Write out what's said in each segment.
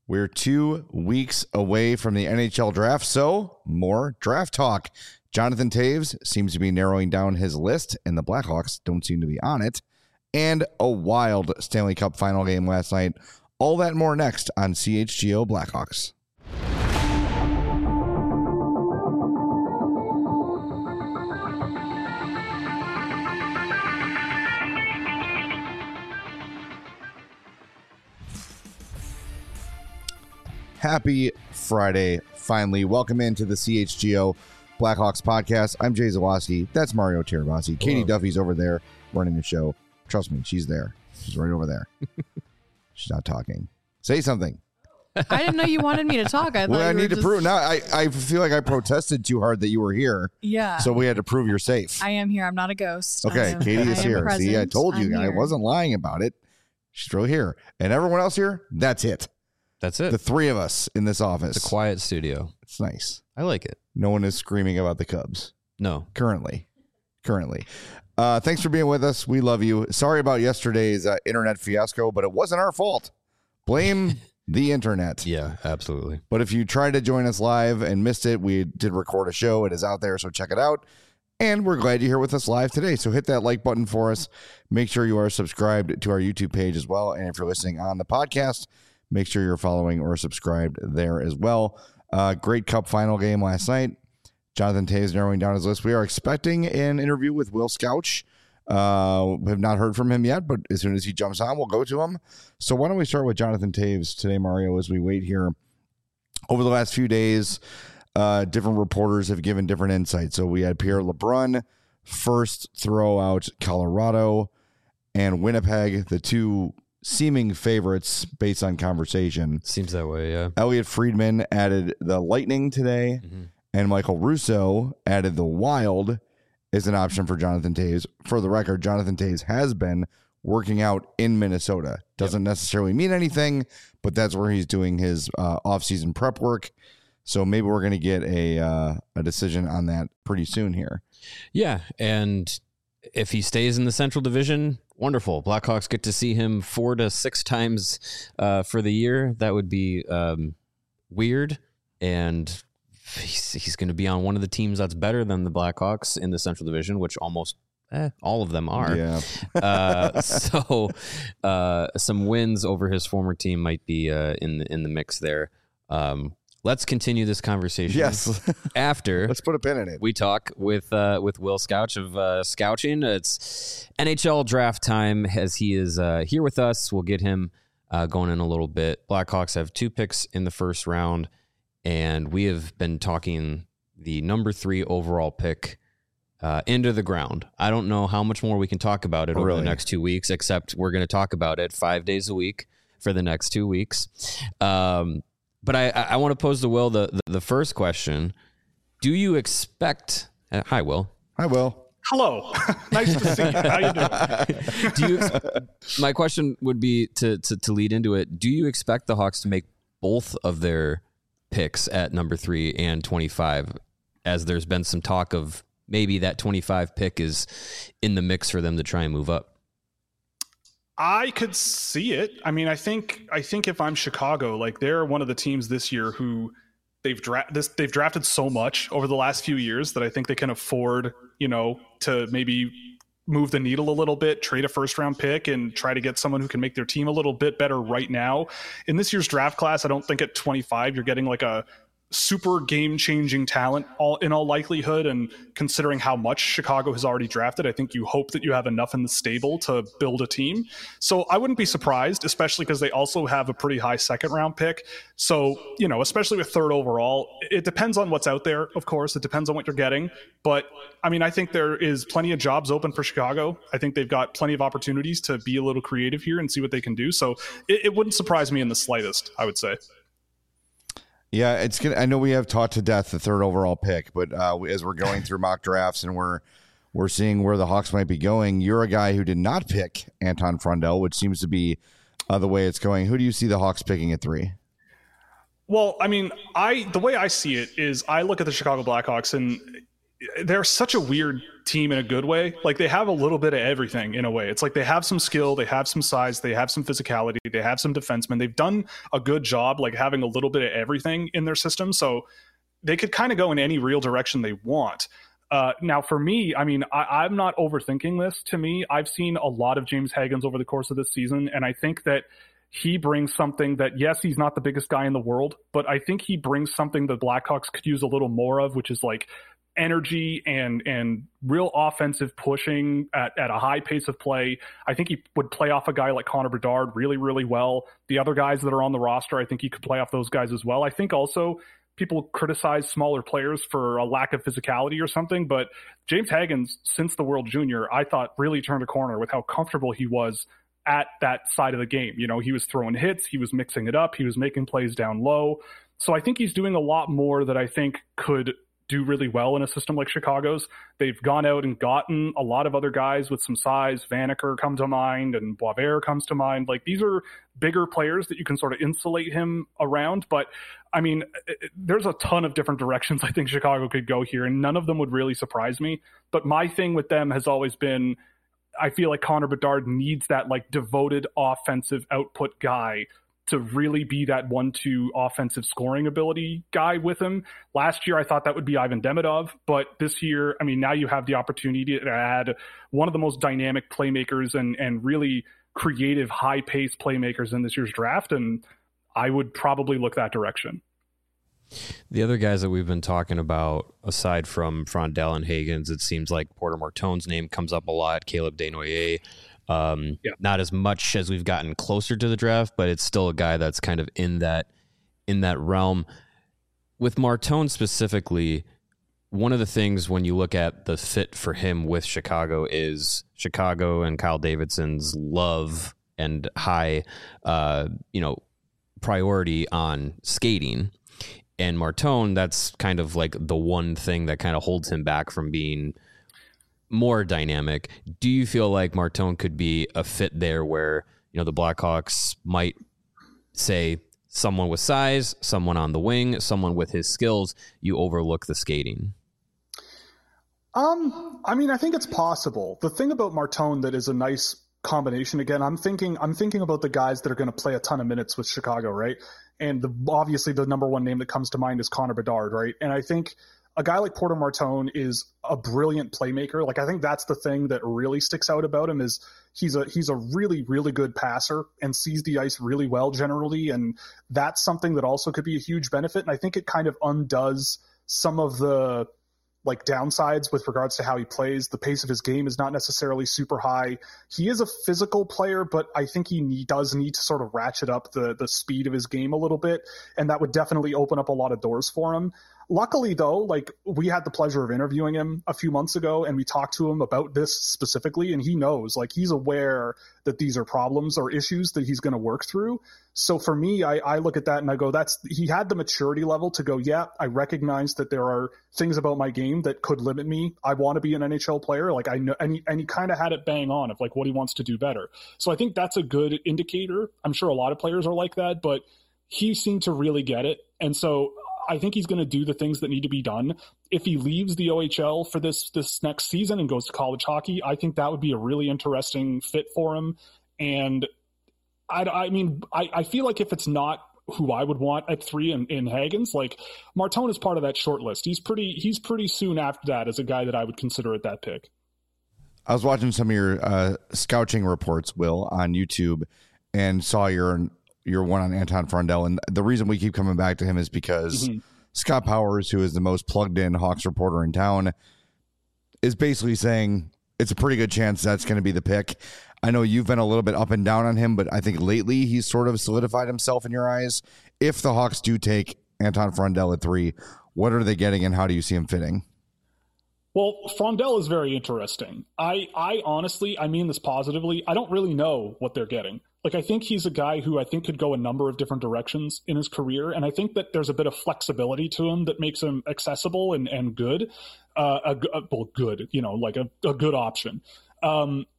We're 2 weeks away from the NHL draft, so more draft talk. Jonathan Toews seems to be narrowing down his list, and the Blackhawks don't seem to be on it. And a wild Stanley Cup final game last night. All that and more next on CHGO Blackhawks. Happy Friday, finally. Welcome into the CHGO Blackhawks podcast. I'm Jay Zawaski. That's Mario Tirabassi. Katie Duffy's over there running the show. Trust me, she's there. She's right over there. She's not talking. Say something. I didn't know you wanted me to talk. I need to prove. Now, I feel like I protested too hard that you were here. Yeah. So we had to prove you're safe. I am here. I'm not a ghost. Okay, Katie is here. Present. See, I told you. I wasn't lying about it. She's right here. And everyone else here, that's it. That's it. The three of us in this office. It's a quiet studio. It's nice. I like it. No one is screaming about the Cubs. No. Currently. Thanks for being with us. We love you. Sorry about yesterday's internet fiasco, but it wasn't our fault. Blame the internet. Yeah, absolutely. But if you tried to join us live and missed it, we did record a show. It is out there, so check it out. And we're glad you're here with us live today. So hit that like button for us. Make sure you are subscribed to our YouTube page as well. And if you're listening on the podcast, make sure you're following or subscribed there as well. Great Cup final game last night. Jonathan Toews narrowing down his list. We are expecting an interview with Will Scouch. We have not heard from him yet, but as soon as he jumps on, we'll go to him. So why don't we start with Jonathan Toews today, Mario, as we wait here. Over the last few days, different reporters have given different insights. So we had Pierre LeBrun first throw out Colorado and Winnipeg, the two seeming favorites based on conversation. Seems that way, yeah. Elliot Friedman added the Lightning today, and Michael Russo added the Wild as an option for Jonathan Toews. For the record, Jonathan Toews has been working out in Minnesota. Doesn't necessarily mean anything, but that's where he's doing his off-season prep work. So maybe we're going to get a decision on that pretty soon here. Yeah, and if he stays in the Central Division, wonderful. Blackhawks get to see him 4 to 6 times for the year. That would be weird. And he's going to be on one of the teams that's better than the Blackhawks in the Central Division, which almost all of them are. Yeah. So some wins over his former team might be in the mix there. Let's continue this conversation. Yes. After let's put a pin in it. We talk with Will Scouch of Scouching. It's NHL draft time as he is here with us. We'll get him going in a little bit. Blackhawks have 2 picks in the first round, and we have been talking the number 3 overall pick into the ground. I don't know how much more we can talk about it over the next 2 weeks, except we're going to talk about it 5 days a week for the next 2 weeks. But I want to pose to Will the first question. Do you expect... hi, Will. Hi, Will. Hello. Nice to see you. How you doing? My question would be to lead into it. Do you expect the Hawks to make both of their picks at number 3 and 25, as there's been some talk of maybe that 25 pick is in the mix for them to try and move up? I could see it. I mean, I think if I'm Chicago, like they're one of the teams this year who they've drafted so much over the last few years that I think they can afford, to maybe move the needle a little bit, trade a first round pick and try to get someone who can make their team a little bit better right now. In this year's draft class, I don't think at 25 you're getting like a super game-changing talent in all likelihood, and considering how much Chicago has already drafted, I think you hope that you have enough in the stable to build a team. So I wouldn't be surprised, especially because they also have a pretty high second-round pick. So, especially with 3rd overall, it depends on what's out there, of course. It depends on what you're getting. But, I mean, I think there is plenty of jobs open for Chicago. I think they've got plenty of opportunities to be a little creative here and see what they can do. So it wouldn't surprise me in the slightest, I would say. Yeah, it's gonna. I know we have taught to death the 3rd overall pick, but as we're going through mock drafts and we're seeing where the Hawks might be going, you're a guy who did not pick Anton Frundell, which seems to be the way it's going. Who do you see the Hawks picking at 3? Well, I mean, the way I see it is I look at the Chicago Blackhawks and they're such a weird team in a good way. Like they have a little bit of everything in a way. It's like they have some skill, they have some size, they have some physicality, they have some defensemen. They've done a good job like having a little bit of everything in their system. So they could kind of go in any real direction they want. Now for me, I mean, I'm not overthinking this. To me, I've seen a lot of James Hagens over the course of this season, and I think that he brings something that, yes, he's not the biggest guy in the world, but I think he brings something the Blackhawks could use a little more of, which is like energy and real offensive pushing at a high pace of play. I think he would play off a guy like Connor Bedard really, really well. The other guys that are on the roster, I think he could play off those guys as well. I think also people criticize smaller players for a lack of physicality or something, but James Hagens, since the World Junior, I thought really turned a corner with how comfortable he was at that side of the game. You know, he was throwing hits, he was mixing it up, he was making plays down low. So I think he's doing a lot more that I think could do really well in a system like Chicago's. They've gone out and gotten a lot of other guys with some size. Vanacker comes to mind and Boisvert comes to mind. Like these are bigger players that you can sort of insulate him around. But I mean, there's a ton of different directions I think Chicago could go here, and none of them would really surprise me. But my thing with them has always been, I feel like Connor Bedard needs that like devoted offensive output guy to really be that 1-2 offensive scoring ability guy with him. Last year, I thought that would be Ivan Demidov, but this year, I mean, now you have the opportunity to add one of the most dynamic playmakers and really creative, high-paced playmakers in this year's draft, and I would probably look that direction. The other guys that we've been talking about, aside from Frondell and Hagens, it seems like Porter Martone's name comes up a lot, Caleb Desnoyers. Not as much as we've gotten closer to the draft, but it's still a guy that's kind of in that realm. With Martone specifically, one of the things when you look at the fit for him with Chicago is Chicago and Kyle Davidson's love and high, priority on skating. And Martone, that's kind of like the one thing that kind of holds him back from being more dynamic. Do you feel like Martone could be a fit there where, the Blackhawks might say someone with size, someone on the wing, someone with his skills, you overlook the skating? I mean, I think it's possible. The thing about Martone that is a nice combination, again, I'm thinking about the guys that are going to play a ton of minutes with Chicago, right? And obviously the number one name that comes to mind is Connor Bedard, right? And I think a guy like Porter Martone is a brilliant playmaker. Like, I think that's the thing that really sticks out about him is he's a really, really good passer and sees the ice really well generally. And that's something that also could be a huge benefit. And I think it kind of undoes some of the like downsides with regards to how he plays. The pace of his game is not necessarily super high. He is a physical player, but I think he does need to sort of ratchet up the speed of his game a little bit. And that would definitely open up a lot of doors for him. Luckily, though, like we had the pleasure of interviewing him a few months ago, and we talked to him about this specifically, and he knows, like he's aware that these are problems or issues that he's going to work through. So for me, I look at that and I go, he had the maturity level to go, yeah, I recognize that there are things about my game that could limit me. I want to be an NHL player. Like I know, and he kind of had it bang on of like what he wants to do better. So I think that's a good indicator. I'm sure a lot of players are like that, but he seemed to really get it. And so I think he's going to do the things that need to be done. If he leaves the OHL for this next season and goes to college hockey, I think that would be a really interesting fit for him. And I mean, I feel like if it's not who I would want at 3 in Hagens, like Martone is part of that short list. He's pretty soon after that as a guy that I would consider at that pick. I was watching some of your scouting reports, Will, on YouTube, and saw your one on Anton Frondell. And the reason we keep coming back to him is because Scott Powers, who is the most plugged in Hawks reporter in town, is basically saying it's a pretty good chance that's going to be the pick. I know you've been a little bit up and down on him, but I think lately he's sort of solidified himself in your eyes. If the Hawks do take Anton Frondell at 3, what are they getting and how do you see him fitting? Well, Frondell is very interesting. I honestly, I mean this positively, I don't really know what they're getting. Like, I think he's a guy who I think could go a number of different directions in his career, and I think that there's a bit of flexibility to him that makes him accessible and good. Good, like a good option.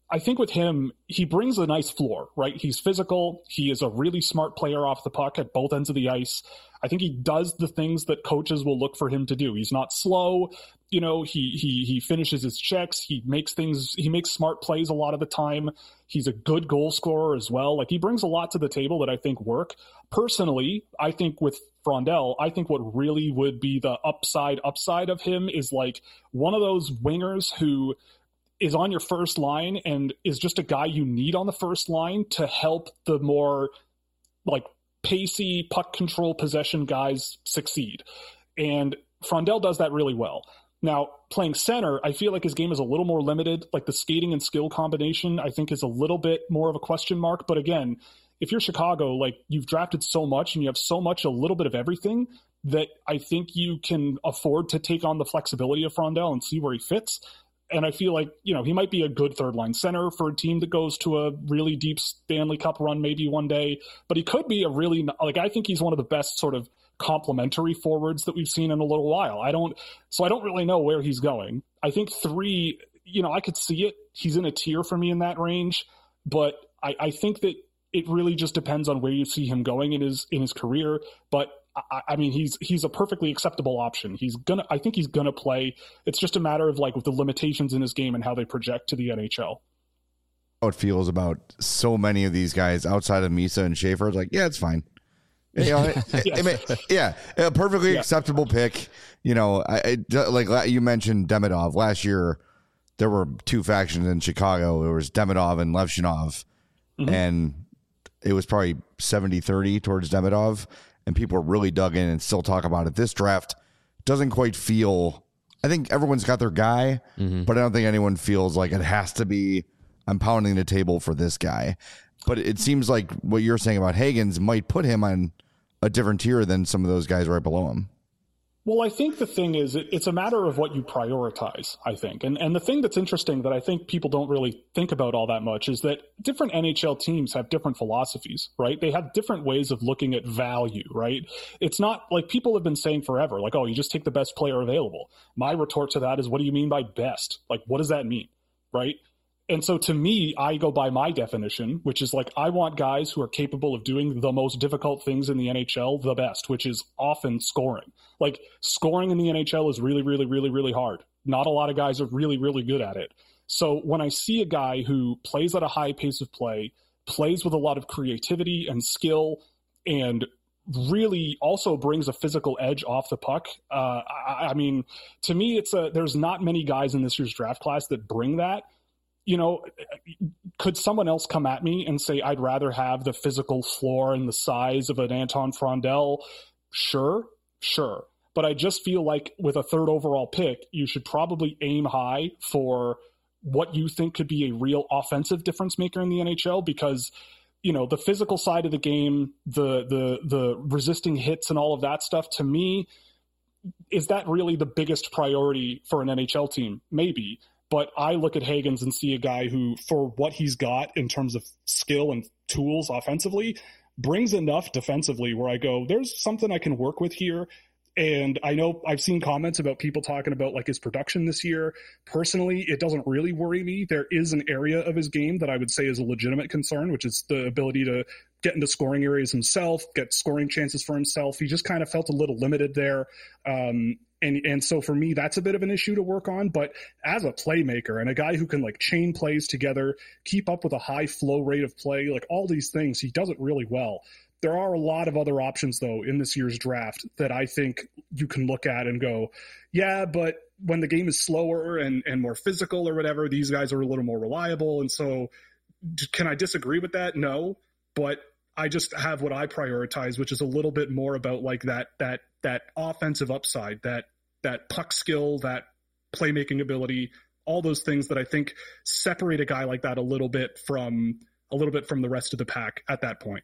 I think with him, he brings a nice floor, right? He's physical. He is a really smart player off the puck at both ends of the ice. I think he does the things that coaches will look for him to do. He's not slow. You know, he finishes his checks. He makes smart plays a lot of the time. He's a good goal scorer as well. Like, he brings a lot to the table that I think work. Personally, I think with Frondell, I think what really would be the upside of him is like one of those wingers who is on your first line and is just a guy you need on the first line to help the more like pacey puck control possession guys succeed. And Frondell does that really well. Now, playing center, I feel like his game is a little more limited. Like, the skating and skill combination, I think, is a little bit more of a question mark. But again, if you're Chicago, like, you've drafted so much and you have so much, a little bit of everything, that I think you can afford to take on the flexibility of Frondell and see where he fits. And I feel like, you know, he might be a good third line center for a team that goes to a really deep Stanley Cup run maybe one day. But he could be a really, like, I think he's one of the best sort of complementary forwards that we've seen in a little while. I don't really know where he's going. I think 3, you know, I could see it. He's in a tier for me in that range. But I think that it really just depends on where you see him going in his career. But I mean, he's a perfectly acceptable option. I think he's gonna play. It's just a matter of like with the limitations in his game and how they project to the NHL. How it feels about so many of these guys outside of Misa and Schaefer. It's like, yeah, it's fine. You know, a perfectly acceptable pick. You know, like you mentioned Demidov last year. There were 2 factions in Chicago. There was Demidov and Levshinov, and it was probably 70-30 towards Demidov. And people are really dug in and still talk about it. This draft doesn't quite feel, I think everyone's got their guy, but I don't think anyone feels like it has to be, I'm pounding the table for this guy. But it seems like what you're saying about Hagens might put him on a different tier than some of those guys right below him. Well, I think the thing is, it's a matter of what you prioritize, I think. And the thing that's interesting that I think people don't really think about all that much is that different NHL teams have different philosophies, right? They have different ways of looking at value, right? It's not like people have been saying forever, like, oh, you just take the best player available. My retort to that is, what do you mean by best? Like, what does that mean, right? And so to me, I go by my definition, which is like, I want guys who are capable of doing the most difficult things in the NHL the best, which is often scoring. Like, scoring in the NHL is really, really, really, really hard. Not a lot of guys are really, really good at it. So when I see a guy who plays at a high pace of play, plays with a lot of creativity and skill, and really also brings a physical edge off the puck. I mean, to me, there's not many guys in this year's draft class that bring that. You know, could someone else come at me and say, I'd rather have the physical floor and the size of an Anton Frondell? Sure. But I just feel like with a 3rd overall pick, you should probably aim high for what you think could be a real offensive difference maker in the NHL, because, you know, the physical side of the game, the resisting hits and all of that stuff, to me, is that really the biggest priority for an NHL team? Maybe. But I look at Hagens and see a guy who, for what he's got in terms of skill and tools offensively, brings enough defensively where I go, there's something I can work with here. And I know I've seen comments about people talking about like his production this year. Personally, it doesn't really worry me. There is an area of his game that I would say is a legitimate concern, which is the ability to get into scoring areas himself, get scoring chances for himself. He just kind of felt a little limited there. And so for me, that's a bit of an issue to work on. But as a playmaker and a guy who can like chain plays together, keep up with a high flow rate of play, like all these things, he does it really well. There are a lot of other options, though, in this year's draft that I think you can look at and go, yeah, but when the game is slower and more physical or whatever, these guys are a little more reliable. And so can I disagree with that? No, but I just have what I prioritize, which is a little bit more about like that offensive upside, that puck skill, that playmaking ability, all those things that I think separate a guy like that a little bit from the rest of the pack at that point.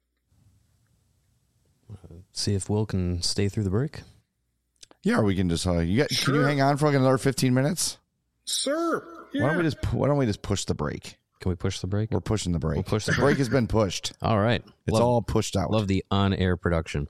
See if Will can stay through the break. Yeah, or we can just can you hang on for like another 15 minutes? Sir, yeah. Why don't we just push the break? Can we push the break? We're pushing the break. We'll push the break has been pushed. All right. It's all pushed out. Love the on-air production.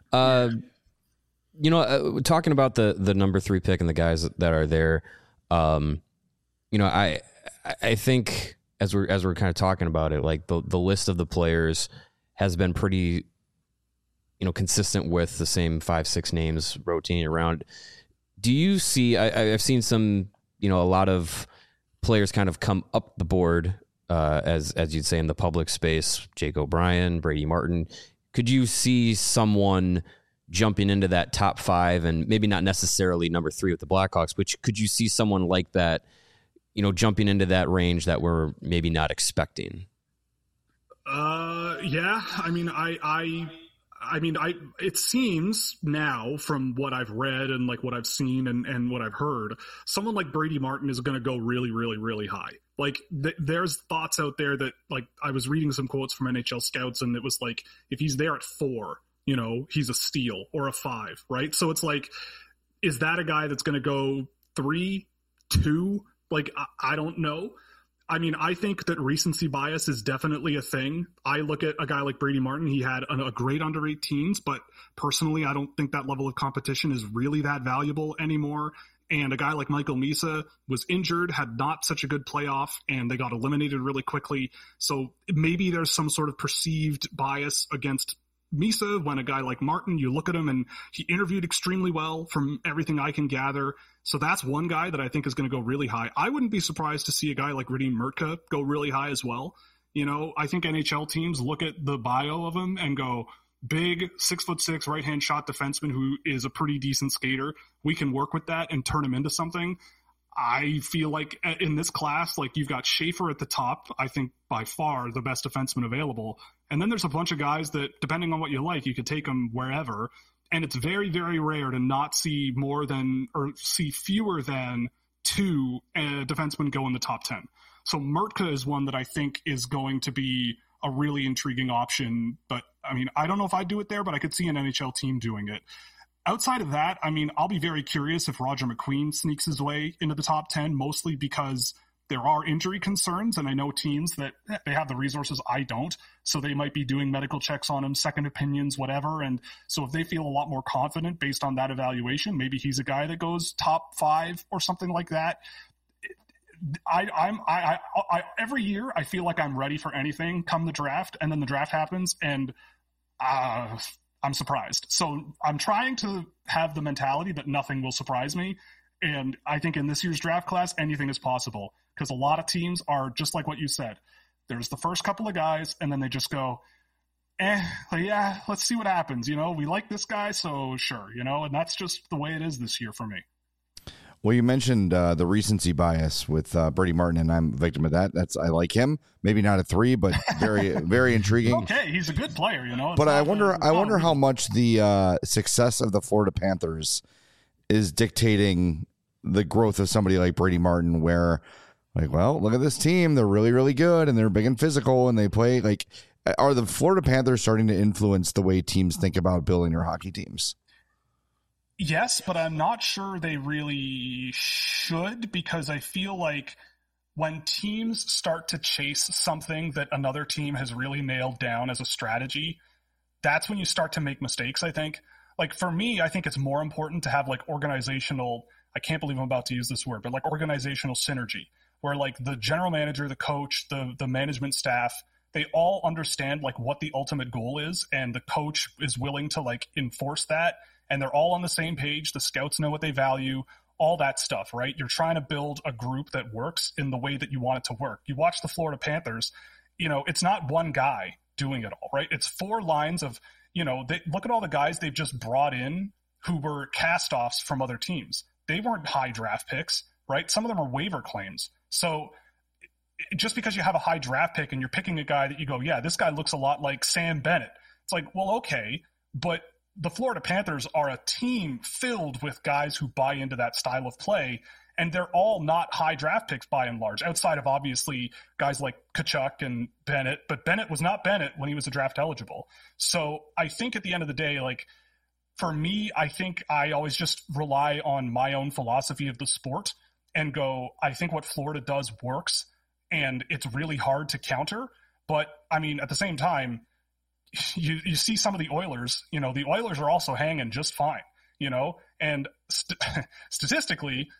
You know, talking about the number 3 pick and the guys that are there, you know, I think as we're kind of talking about it, like the list of the players has been pretty, consistent with the same 5-6 names rotating around. Do you see? I've seen some, a lot of players kind of come up the board, as you'd say in the public space. Jake O'Brien, Brady Martin. Could you see someone jumping into that top 5, and maybe not necessarily number 3 with the Blackhawks, but could you see someone like that, jumping into that range that we're maybe not expecting? Yeah. It seems now from what I've read and like what I've seen and what I've heard, someone like Brady Martin is going to go really, really, really high. Like there's thoughts out there that, like, I was reading some quotes from NHL scouts, and it was like, if he's there at 4, he's a steal, or a 5, right? So it's like, is that a guy that's going to go 3, 2? Like, I don't know. I mean, I think that recency bias is definitely a thing. I look at a guy like Brady Martin. He had a great under-18s, but personally, I don't think that level of competition is really that valuable anymore. And a guy like Michael Misa was injured, had not such a good playoff, and they got eliminated really quickly. So maybe there's some sort of perceived bias against Misa when a guy like Martin, you look at him and he interviewed extremely well from everything I can gather. So that's one guy that I think is going to go really high. I wouldn't be surprised to see a guy like Radim Murtka go really high as well. I think NHL teams look at the bio of him and go, big 6'6" right-hand shot defenseman who is a pretty decent skater. We can work with that and turn him into something. I feel like in this class, like, you've got Schaefer at the top, I think by far the best defenseman available. And then there's a bunch of guys that, depending on what you like, you could take them wherever. And it's very, very rare to not see see fewer than 2 defensemen go in the top 10. So Murtka is one that I think is going to be a really intriguing option. But I mean, I don't know if I'd do it there, but I could see an NHL team doing it. Outside of that, I mean, I'll be very curious if Roger McQueen sneaks his way into the top 10, mostly because there are injury concerns, and I know teams that they have the resources, I don't, so they might be doing medical checks on him, second opinions, whatever. And so if they feel a lot more confident based on that evaluation, maybe he's a guy that goes top 5 or something like that. I every year I feel like I'm ready for anything come the draft, and then the draft happens, and I'm surprised. So I'm trying to have the mentality that nothing will surprise me. And I think in this year's draft class, anything is possible, because a lot of teams are just like what you said. There's the first couple of guys, and then they just go, yeah, let's see what happens. We like this guy, so sure, and that's just the way it is this year for me. Well, you mentioned the recency bias with Brady Martin, and I'm a victim of that. I like him. Maybe not a 3, but very, very intriguing. Okay, he's a good player, But I wonder how much the success of the Florida Panthers is dictating the growth of somebody like Brady Martin, where, like, well, look at this team. They're really, really good, and they're big and physical, and they play like. Are the Florida Panthers starting to influence the way teams think about building their hockey teams? Yes, but I'm not sure they really should, because I feel like when teams start to chase something that another team has really nailed down as a strategy, that's when you start to make mistakes, I think. Like, for me, I think it's more important to have, like, organizational, I can't believe I'm about to use this word, but like organizational synergy, where like the general manager, the coach, the management staff, they all understand like what the ultimate goal is, and the coach is willing to like enforce that. And they're all on the same page. The scouts know what they value, all that stuff, right? You're trying to build a group that works in the way that you want it to work. You watch the Florida Panthers, it's not one guy doing it all, right? It's 4 lines of, look at all the guys they've just brought in who were cast-offs from other teams. They weren't high draft picks, right? Some of them are waiver claims. So just because you have a high draft pick and you're picking a guy that you go, yeah, this guy looks a lot like Sam Bennett. It's like, well, okay, but the Florida Panthers are a team filled with guys who buy into that style of play, and they're all not high draft picks by and large, outside of obviously guys like Tkachuk and Bennett, but Bennett was not Bennett when he was a draft eligible. So I think at the end of the day, like, for me, I think I always just rely on my own philosophy of the sport and go, I think what Florida does works, and it's really hard to counter. But I mean, at the same time, you see some of the Oilers, the Oilers are also hanging just fine, and statistically,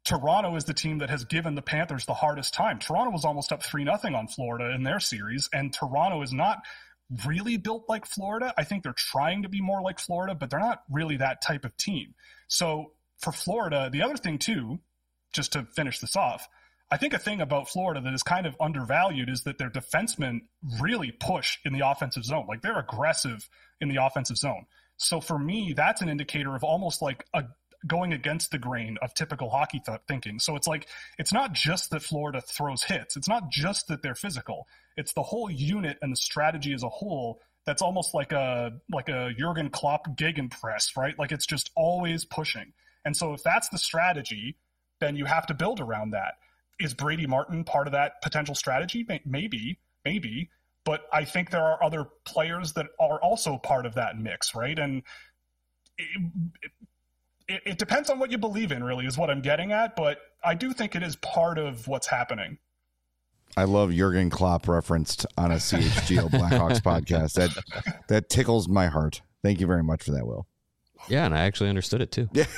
Toronto is the team that has given the Panthers the hardest time. Toronto was almost up 3-0 on Florida in their series, and Toronto is not really built like Florida. I think they're trying to be more like Florida, but they're not really that type of team. So for Florida, the other thing too, just to finish this off, I think a thing about Florida that is kind of undervalued is that their defensemen really push in the offensive zone. Like, they're aggressive in the offensive zone. So for me, that's an indicator of almost like going against the grain of typical hockey thinking. So it's like, it's not just that Florida throws hits. It's not just that they're physical. It's the whole unit and the strategy as a whole that's almost like a Jurgen Klopp gegenpress, right? Like, it's just always pushing. And so if that's the strategy, then you have to build around that. Is Brady Martin part of that potential strategy? Maybe. But I think there are other players that are also part of that mix, right? And it depends on what you believe in, really, is what I'm getting at. But I do think it is part of what's happening. I love Jurgen Klopp referenced on a CHGO Blackhawks podcast. That tickles my heart. Thank you very much for that, Will. Yeah, and I actually understood it too. Yeah.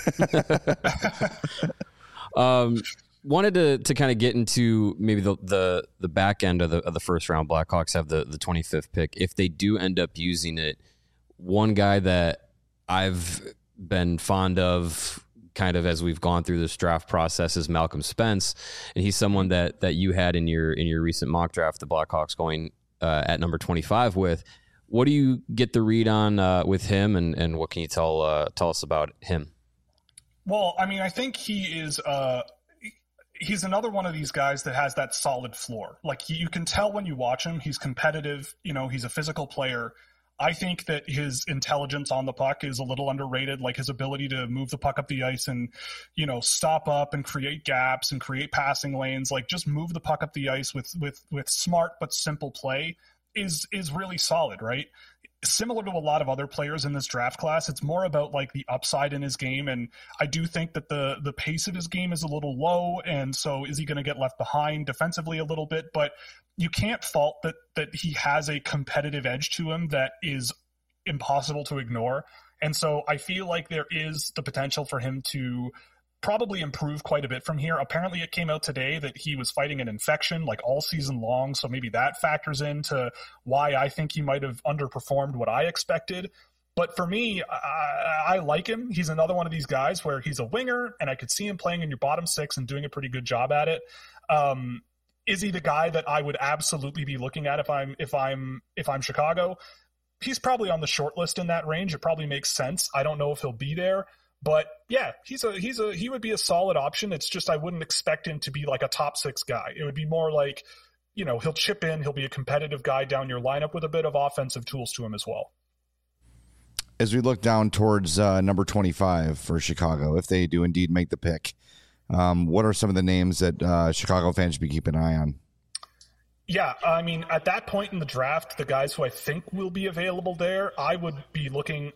Wanted to kind of get into maybe the back end of the first round. Blackhawks have the 25th pick. If they do end up using it, one guy that I've been fond of kind of as we've gone through this draft process is Malcolm Spence, and he's someone that you had in your recent mock draft, the Blackhawks going at number 25 with. What do you get the read on with him, and what can you tell us about him? Well, I mean, I think he is he's another one of these guys that has that solid floor. Like, you can tell when you watch him, he's competitive, he's a physical player. I think that his intelligence on the puck is a little underrated, like his ability to move the puck up the ice and, stop up and create gaps and create passing lanes, like just move the puck up the ice with smart but simple play is really solid, right? Similar to a lot of other players in this draft class, it's more about like the upside in his game. And I do think that the pace of his game is a little low. And so is he going to get left behind defensively a little bit? But you can't fault that he has a competitive edge to him that is impossible to ignore. And so I feel like there is the potential for him to probably improve quite a bit from here. Apparently it came out today that he was fighting an infection like all season long. So maybe that factors into why I think he might have underperformed what I expected. But for me, I like him. He's another one of these guys where he's a winger and I could see him playing in your bottom six and doing a pretty good job at it. Is he the guy that I would absolutely be looking at if I'm Chicago? He's probably on the short list in that range. It probably makes sense. I don't know if he'll be there. But yeah, he would be a solid option. It's just I wouldn't expect him to be like a top six guy. It would be more like, he'll chip in, he'll be a competitive guy down your lineup with a bit of offensive tools to him as well. As we look down towards number 25 for Chicago, if they do indeed make the pick, what are some of the names that Chicago fans should be keeping an eye on? Yeah, I mean, at that point in the draft, the guys who I think will be available there, I would be looking,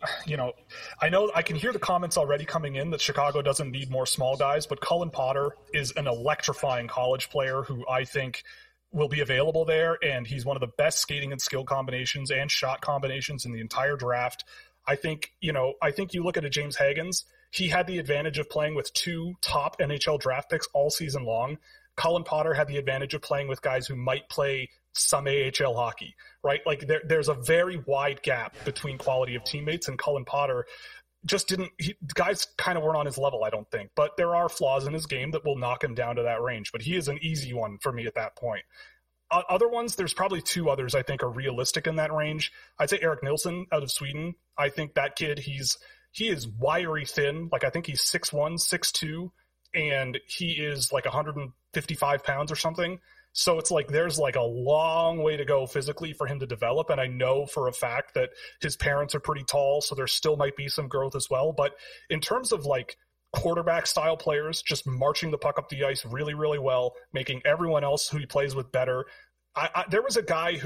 I know I can hear the comments already coming in that Chicago doesn't need more small guys, but Cullen Potter is an electrifying college player who I think will be available there, and he's one of the best skating and skill combinations and shot combinations in the entire draft. I think you look at a James Hagens, he had the advantage of playing with two top NHL draft picks all season long. Cullen Potter had the advantage of playing with guys who might play some AHL hockey, right? Like there's a very wide gap between quality of teammates, and Cullen Potter just guys kind of weren't on his level, I don't think. But there are flaws in his game that will knock him down to that range. But he is an easy one for me at that point. Other ones, there's probably two others I think are realistic in that range. I'd say Eric Nilsson out of Sweden. I think that kid, he is wiry thin. Like I think he's 6'1", 6'2", and he is like 155 pounds or something. So it's like there's like a long way to go physically for him to develop. And I know for a fact that his parents are pretty tall, so there still might be some growth as well. But in terms of like quarterback style players, just marching the puck up the ice really, really well, making everyone else who he plays with better. There was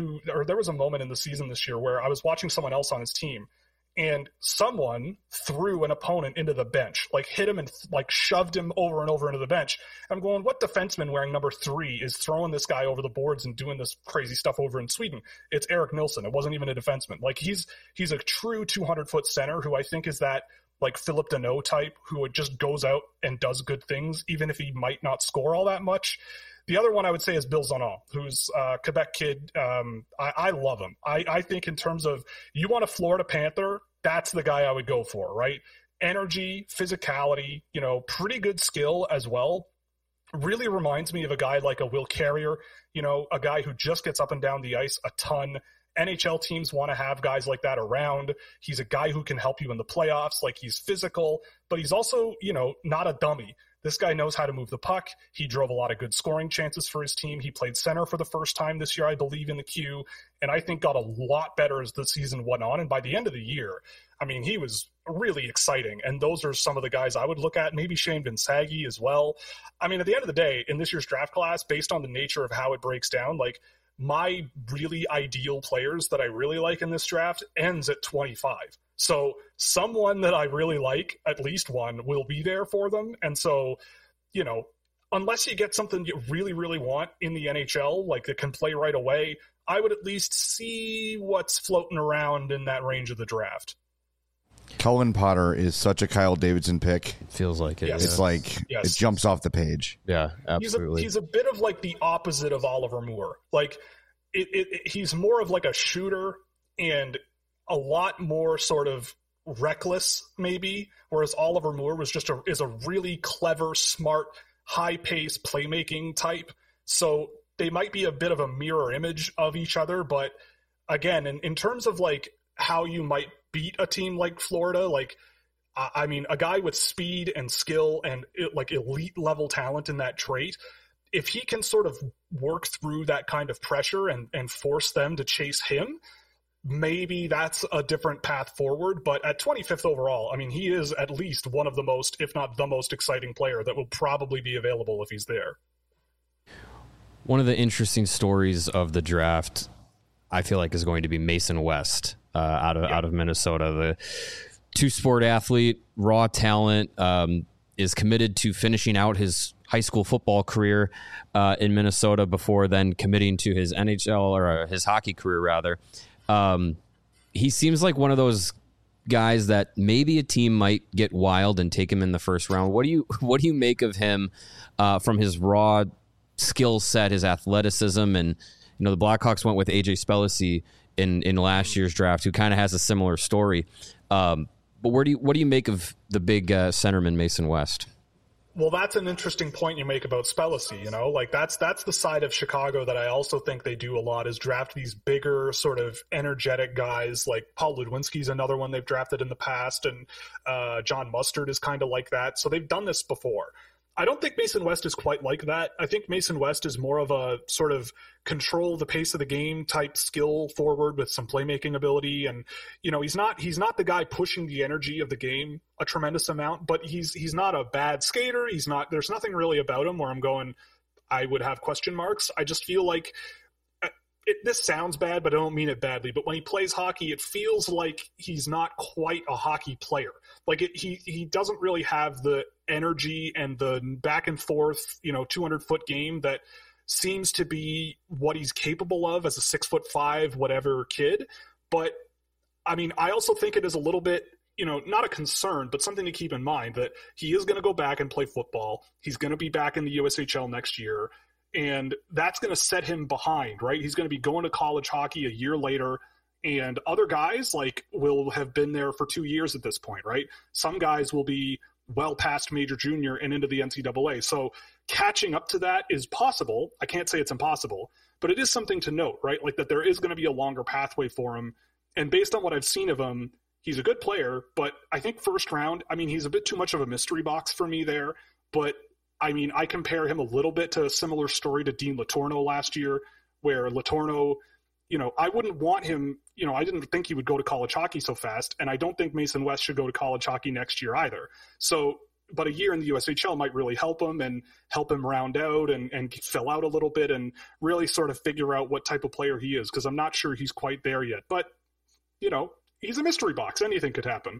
a moment in the season this year where I was watching someone else on his team, and someone threw an opponent into the bench, like hit him and like shoved him over and over into the bench. I'm going, what defenseman wearing number 3 is throwing this guy over the boards and doing this crazy stuff over in Sweden? It's Eric Nilsson. It wasn't even a defenseman. Like he's a true 200-foot center who I think is that like Philip Deneau type, who just goes out and does good things, even if he might not score all that much. The other one I would say is Bill Zonon, who's a Quebec kid. I love him. I think in terms of, you want a Florida Panther, that's the guy I would go for, right? Energy, physicality, pretty good skill as well. Really reminds me of a guy like a Will Carrier, a guy who just gets up and down the ice a ton. NHL teams want to have guys like that around. He's a guy who can help you in the playoffs. Like, he's physical, but he's also, not a dummy. This guy knows how to move the puck. He drove a lot of good scoring chances for his team. He played center for the first time this year, I believe, in the Q, and I think got a lot better as the season went on. And by the end of the year, I mean, he was really exciting. And those are some of the guys I would look at. Maybe Shane Vinsagi as well. I mean, at the end of the day, in this year's draft class, based on the nature of how it breaks down, like, my really ideal players that I really like in this draft ends at 25. So someone that I really like, at least one, will be there for them. And so, unless you get something you really, really want in the NHL, like that can play right away, I would at least see what's floating around in that range of the draft. Cullen Potter is such a Kyle Davidson pick. It feels like it. Yes. It's like, It jumps off the page. Yeah, absolutely. He's a bit of like the opposite of Oliver Moore. Like, he's more of like a shooter and a lot more sort of reckless, maybe, whereas Oliver Moore is a really clever, smart, high-paced playmaking type. So they might be a bit of a mirror image of each other, but again, in terms of like how you might beat a team like Florida, like, I mean, a guy with speed and skill and like elite level talent in that trait, if he can sort of work through that kind of pressure and force them to chase him, maybe that's a different path forward. But at 25th overall, I mean, he is at least one of the most, if not the most exciting player that will probably be available if he's there. One of the interesting stories of the draft, I feel like, is going to be Mason West out of Minnesota. The two-sport athlete, raw talent, is committed to finishing out his high school football career in Minnesota before then committing to his NHL or his hockey career, rather. He seems like one of those guys that maybe a team might get wild and take him in the first round. What do you make of him from his raw skill set, his athleticism? And the Blackhawks went with AJ Spellacy in last year's draft, who kind of has a similar story. But what do you make of the big centerman Mason West? Well, that's an interesting point you make about Spellacy, like that's the side of Chicago that I also think they do a lot, is draft these bigger sort of energetic guys. Like Paul Ludwinski's another one they've drafted in the past, and John Mustard is kind of like that. So they've done this before. I don't think Mason West is quite like that. I think Mason West is more of a sort of control the pace of the game type skill forward with some playmaking ability. And, he's not the guy pushing the energy of the game a tremendous amount, but he's not a bad skater. There's nothing really about him where I'm going, I would have question marks. I just feel like this sounds bad, but I don't mean it badly. But when he plays hockey, it feels like he's not quite a hockey player. Like he doesn't really have the energy and the back and forth, 200-foot game that seems to be what he's capable of as a 6'5", whatever kid. But I mean, I also think it is a little bit, not a concern, but something to keep in mind that he is going to go back and play football. He's going to be back in the USHL next year. And that's going to set him behind, right? He's going to be going to college hockey a year later, and other guys will have been there for 2 years at this point, right? Some guys will be well past major junior and into the NCAA. So catching up to that is possible. I can't say it's impossible, but it is something to note, right? Like that there is going to be a longer pathway for him. And based on what I've seen of him, he's a good player, but I think first round, I mean, he's a bit too much of a mystery box for me there, but I mean, I compare him a little bit to a similar story to Dean Letourneau last year, where Letourneau, I wouldn't want him, I didn't think he would go to college hockey so fast, and I don't think Mason West should go to college hockey next year either. So, but a year in the USHL might really help him and help him round out and fill out a little bit and really sort of figure out what type of player he is, because I'm not sure he's quite there yet. But, he's a mystery box. Anything could happen.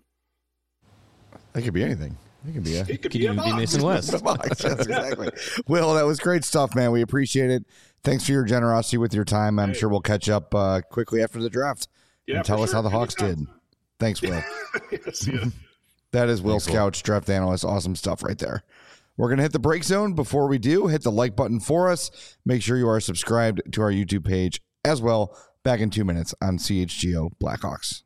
It could be anything. It could even be Mason West. Yes, exactly. Will, that was great stuff, man. We appreciate it. Thanks for your generosity with your time. I'm sure we'll catch up quickly after the draft and tell us how the Hawks did. Thanks, Will. Yes, yeah. That is Will Scouch, draft analyst. Awesome stuff right there. We're going to hit the break zone. Before we do, hit the like button for us. Make sure you are subscribed to our YouTube page as well. Back in 2 minutes on CHGO Blackhawks.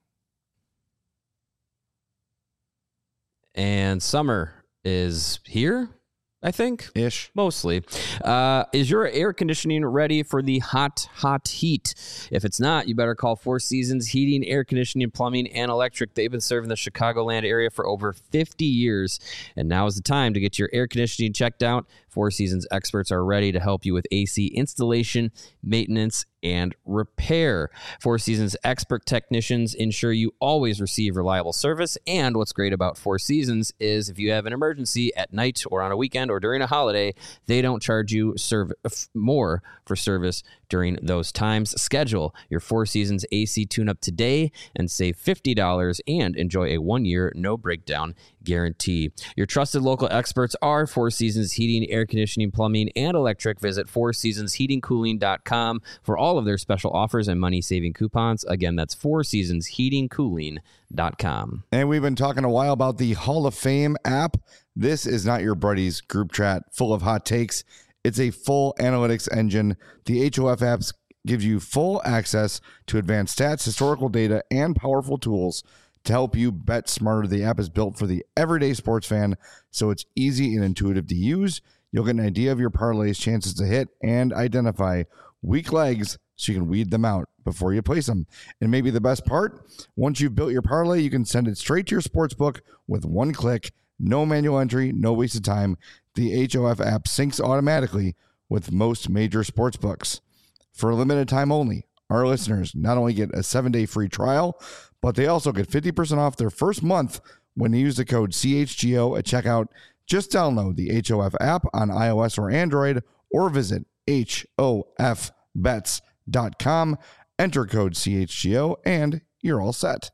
And summer is here, I think. Ish. Mostly. Is your air conditioning ready for the hot heat? If it's not, you better call Four Seasons Heating, Air Conditioning, Plumbing, and Electric. They've been serving the Chicagoland area for over 50 years, and now is the time to get your air conditioning checked out. Four Seasons experts are ready to help you with AC installation, maintenance, and repair. Four Seasons expert technicians ensure you always receive reliable service. And what's great about Four Seasons is if you have an emergency at night or on a weekend or during a holiday, they don't charge you more for service during those times. Schedule your Four Seasons AC tune-up today and save $50 and enjoy a 1-year no breakdown guarantee. Your trusted local experts are Four Seasons Heating, Air Conditioning, Plumbing, and Electric. Visit fourseasonsheatingcooling.com for all of their special offers and money-saving coupons. Again, that's fourseasonsheatingcooling.com. And we've been talking a while about the Hall of Fame app. This is not your buddy's group chat full of hot takes. It's a full analytics engine. The HOF apps gives you full access to advanced stats, historical data, and powerful tools to help you bet smarter. The app is built for the everyday sports fan, so it's easy and intuitive to use. You'll get an idea of your parlay's chances to hit and identify weak legs so you can weed them out before you place them. And maybe the best part, once you've built your parlay, you can send it straight to your sportsbook with one click. No manual entry, no wasted time. The HOF app syncs automatically with most major sportsbooks. For a limited time only, our listeners not only get a 7-day free trial, but they also get 50% off their first month when they use the code CHGO at checkout. Just download the HOF app on iOS or Android or visit HOFbets.com. Enter code CHGO and you're all set.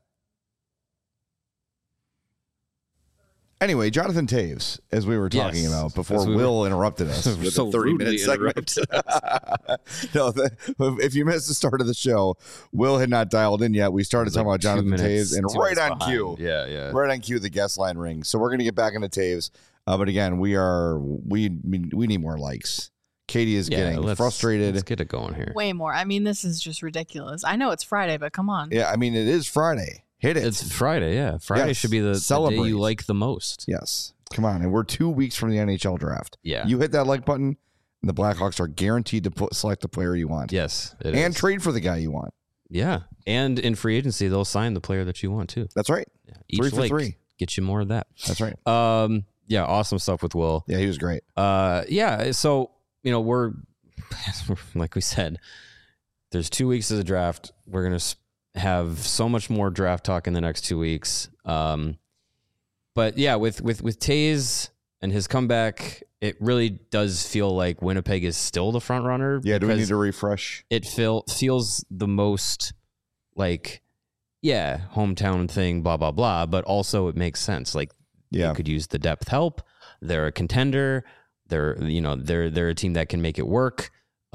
Anyway, Jonathan Toews, as we were talking about before Will interrupted us with so a 30-minute segment. No, if you missed the start of the show, Will had not dialed in yet. We started talking about Jonathan Toews, and right on cue. Yeah. Right on cue, the guest line rings. So we're going to get back into Toews. But again, we need more likes. Katie is getting frustrated. Let's get it going here. Way more. I mean, this is just ridiculous. I know it's Friday, but come on. Yeah, I mean, it is Friday. Hit it. It's Friday, yeah. Friday should be the day you like the most. Yes. Come on. And we're 2 weeks from the NHL draft. Yeah. You hit that like button, and the Blackhawks are guaranteed to select the player you want. Yes. And trade for the guy you want. Yeah. And in free agency, they'll sign the player that you want, too. That's right. Yeah. Each 3 for 3. Get you more of that. That's right. Yeah, awesome stuff with Will. Yeah, he was great. Yeah, so, we're, like we said, there's 2 weeks of the draft. We're going to have so much more draft talk in the next 2 weeks. But yeah, with Toews and his comeback, it really does feel like Winnipeg is still the front runner. Yeah, do we need to refresh? It feels the most like, hometown thing, blah, blah, blah. But also it makes sense. Like, you could use the depth help. They're a contender. They're a team that can make it work.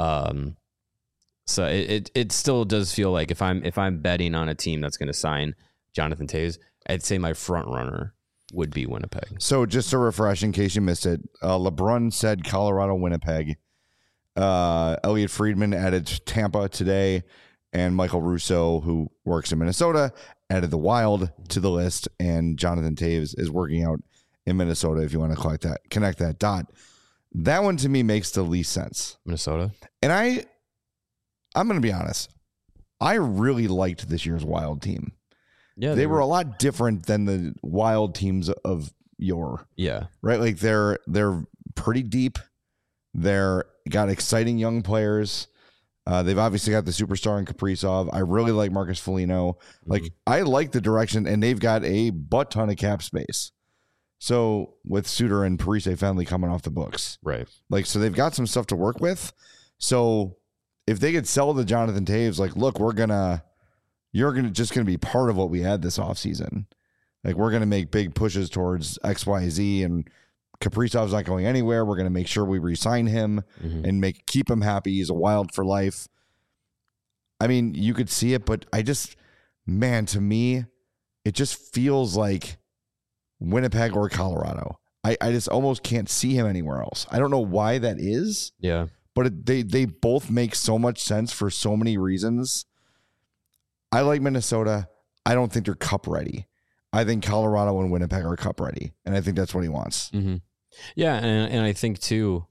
So it still does feel like if I'm betting on a team that's going to sign Jonathan Toews, I'd say my front runner would be Winnipeg. So just to refresh, in case you missed it, LeBrun said Colorado, Winnipeg. Elliot Friedman added Tampa today, and Michael Russo, who works in Minnesota, added the Wild to the list, and Jonathan Toews is working out in Minnesota. If you want to connect that dot, that one to me makes the least sense. Minnesota, and I'm going to be honest. I really liked this year's Wild team. Yeah, they were a lot different than the Wild teams of yore. Yeah, right. Like they're pretty deep. They're got exciting young players. They've obviously got the superstar in Kaprizov. I really like Marcus Foligno. Like I like the direction, and they've got a butt ton of cap space. So with Suter and Parise Fenley coming off the books, right? Like so they've got some stuff to work with. So if they could sell the Jonathan Toews, like, look, you're just gonna be part of what we had this offseason. Like we're gonna make big pushes towards XYZ, and Kaprizov's not going anywhere. We're gonna make sure we re-sign him and keep him happy. He's a Wild for life. I mean, you could see it, but to me, it just feels like Winnipeg or Colorado. I just almost can't see him anywhere else. I don't know why that is. Yeah. But they both make so much sense for so many reasons. I like Minnesota. I don't think they're cup ready. I think Colorado and Winnipeg are cup ready, and I think that's what he wants. Mm-hmm. Yeah, and I think too,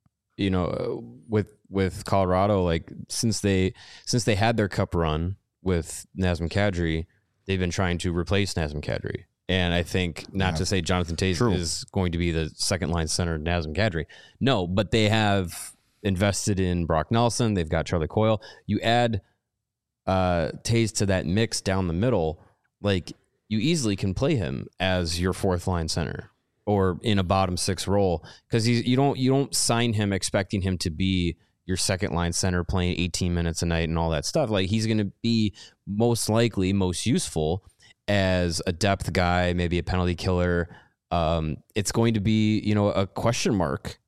with Colorado, like since they had their cup run with Nazem Kadri, they've been trying to replace Nazem Kadri. And I think not to say Jonathan Toews is going to be the second line center Nazem Kadri. No, but they have invested in Brock Nelson. They've got Charlie Coyle. You add Toews to that mix down the middle, like you easily can play him as your fourth line center or in a bottom six role, because you don't sign him expecting him to be your second line center playing 18 minutes a night and all that stuff. Like he's going to be most likely most useful as a depth guy, maybe a penalty killer. It's going to be, a question mark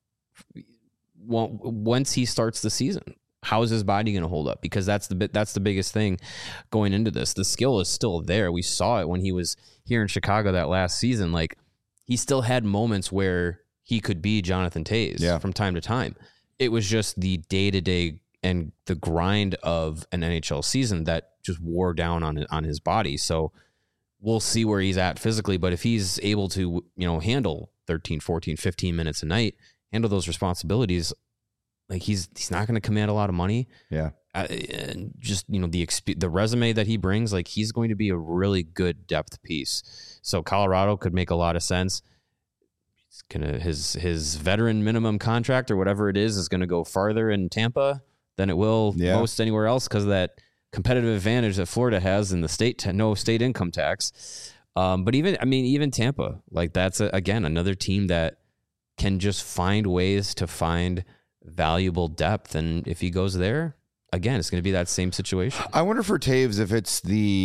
once he starts the season. How is his body going to hold up? Because that's the biggest thing going into this. The skill is still there. We saw it when he was here in Chicago that last season. Like he still had moments where he could be Jonathan Toews from time to time. It was just the day-to-day and the grind of an NHL season that just wore down on his body. So we'll see where he's at physically, but if he's able to, handle 13, 14, 15 minutes a night, handle those responsibilities, like he's not going to command a lot of money. Yeah. And just, the resume that he brings, like he's going to be a really good depth piece. So Colorado could make a lot of sense. It's gonna, his veteran minimum contract or whatever it is going to go farther in Tampa than it will most anywhere else because of that competitive advantage that Florida has in the state, no state income tax. But even Tampa, like that's again, another team that can just find ways to find valuable depth. And if he goes there again, it's going to be that same situation. I wonder for Toews if it's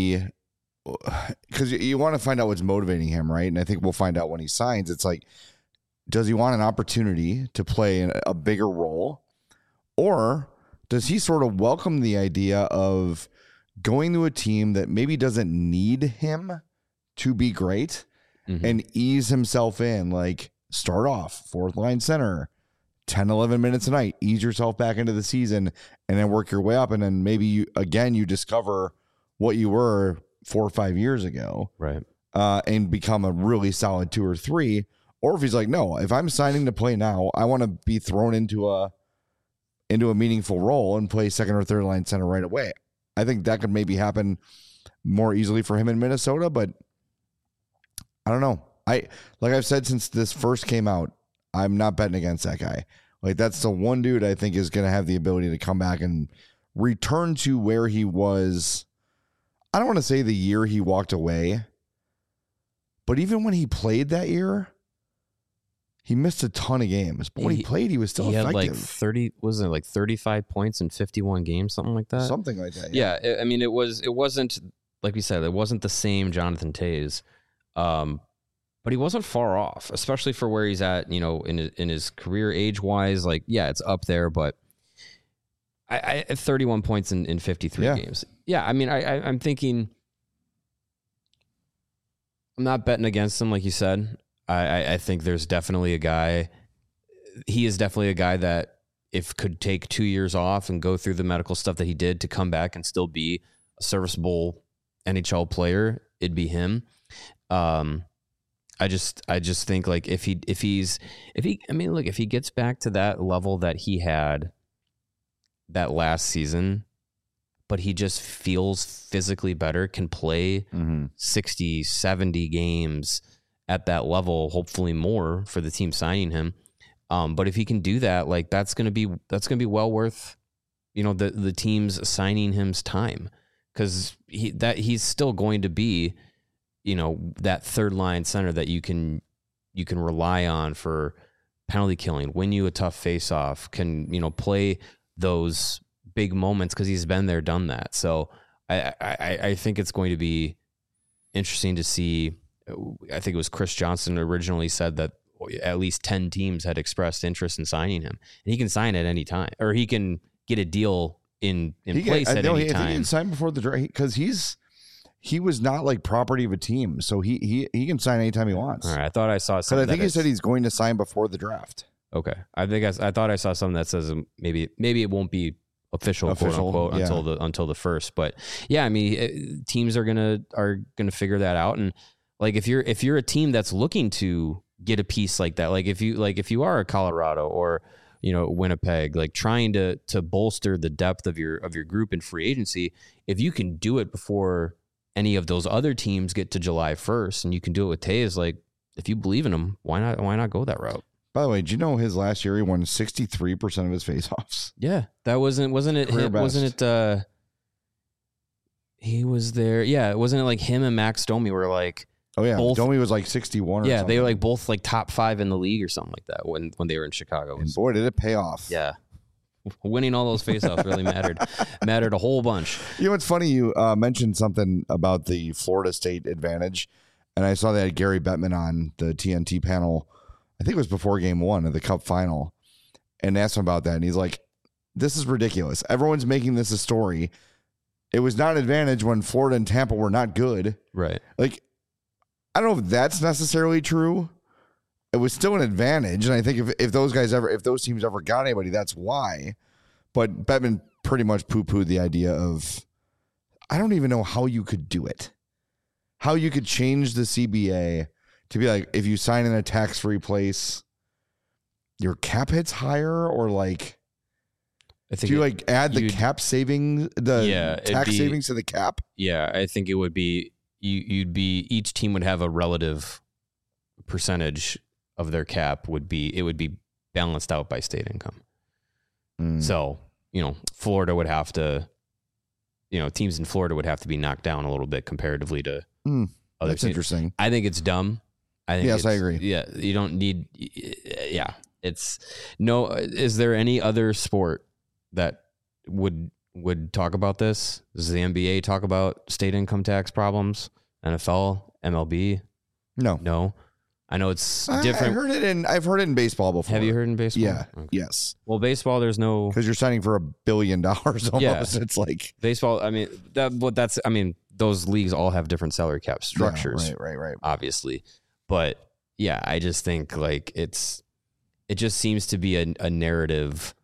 because you want to find out what's motivating him, right? And I think we'll find out when he signs. It's like, does he want an opportunity to play in a bigger role, or does he sort of welcome the idea of going to a team that maybe doesn't need him to be great and ease himself in? Like start off fourth line center, 10, 11 minutes a night, ease yourself back into the season and then work your way up. And then maybe you discover what you were 4 or 5 years ago. Right. And become a really solid 2 or 3. Or if he's like, no, if I'm signing to play now, I want to be thrown into a meaningful role and play second or third line center right away. I think that could maybe happen more easily for him in Minnesota, but I don't know. Like I've said since this first came out, I'm not betting against that guy. Like that's the one dude I think is going to have the ability to come back and return to where he was. I don't want to say the year he walked away, but even when he played that year, he missed a ton of games. But when he played, he was still effective. He had like 35 points in 51 games, something like that. Something like that. Yeah. It wasn't like we said, it wasn't the same Jonathan Toews. But he wasn't far off, especially for where he's at, in his career age-wise. Like, yeah, it's up there, but I 31 points in 53 games. Yeah, I'm thinking I'm not betting against him, like you said. I think there's definitely a guy. He is definitely a guy that if could take 2 years off and go through the medical stuff that he did to come back and still be a serviceable NHL player, it'd be him. I just think like if he gets back to that level that he had that last season, but he just feels physically better, can play 60, 70 games at that level, hopefully more for the team signing him. But if he can do that, like that's going to be well worth, the teams signing him's time, because he's still going to be, that third line center that you can rely on for penalty killing, win you a tough face-off, can, play those big moments because he's been there, done that. So I think it's going to be interesting to see. I think it was Chris Johnson originally said that at least 10 teams had expressed interest in signing him, and he can sign at any time, or he can get a deal in place at any time. I think he can sign before the draft because he's he was not like property of a team, so he can sign anytime he wants. All right, I thought I saw Because something. I think he said he's going to sign before the draft. Okay, I thought I saw something that says maybe it won't be official quote unquote yeah. until the first. But yeah, I mean, teams are gonna figure that out. And like if you're a team that's looking to get a piece like that, like if you are a Colorado or Winnipeg, like trying to bolster the depth of your group in free agency, if you can do it before any of those other teams get to July 1st, and you can do it with Taves, like if you believe in him, why not go that route? By the way, do you know his last year he won 63% of his faceoffs? Yeah, that wasn't it? Wasn't it? He was there. Yeah, wasn't it like him and Max Domi were like? Oh yeah, both, Domi was like 61. Yeah, something. they were like both like top 5 in the league or something like that when they were in Chicago. And boy, did it pay off. Yeah, winning all those faceoffs really mattered a whole bunch. You know, it's funny you mentioned something about the Florida State advantage, and I saw they had Gary Bettman on the TNT panel. I think it was before game 1 of the Cup final, and asked him about that. And he's like, this is ridiculous. Everyone's making this a story. It was not an advantage when Florida and Tampa were not good. Right. Like, I don't know if that's necessarily true. It was still an advantage. And I think if those teams ever got anybody, that's why. But Bettman pretty much poo-pooed the idea of, I don't even know how you could do it. How you could change the CBA to be like, if you sign in a tax-free place, your cap hits higher, or like, I think do you like add the cap savings, tax savings to the cap? Yeah, I think it would be each team would have a relative percentage of their cap would be balanced out by state income. So, Florida would have to, teams in Florida would have to be knocked down a little bit comparatively to other That's teams. interesting. I think it's dumb. I agree. Yeah, you don't need. Yeah, it's no. Is there any other sport that would talk about this? Does the NBA talk about state income tax problems? NFL, MLB? No. I know it's different. I've heard it in baseball before. Have you heard in baseball? Yeah. Okay. Yes. Well, baseball, there's no, because you're signing for $1 billion almost. Yeah. It's like baseball. I mean, those leagues all have different salary cap structures. Yeah, right. Obviously. But yeah, I just think like it just seems to be a narrative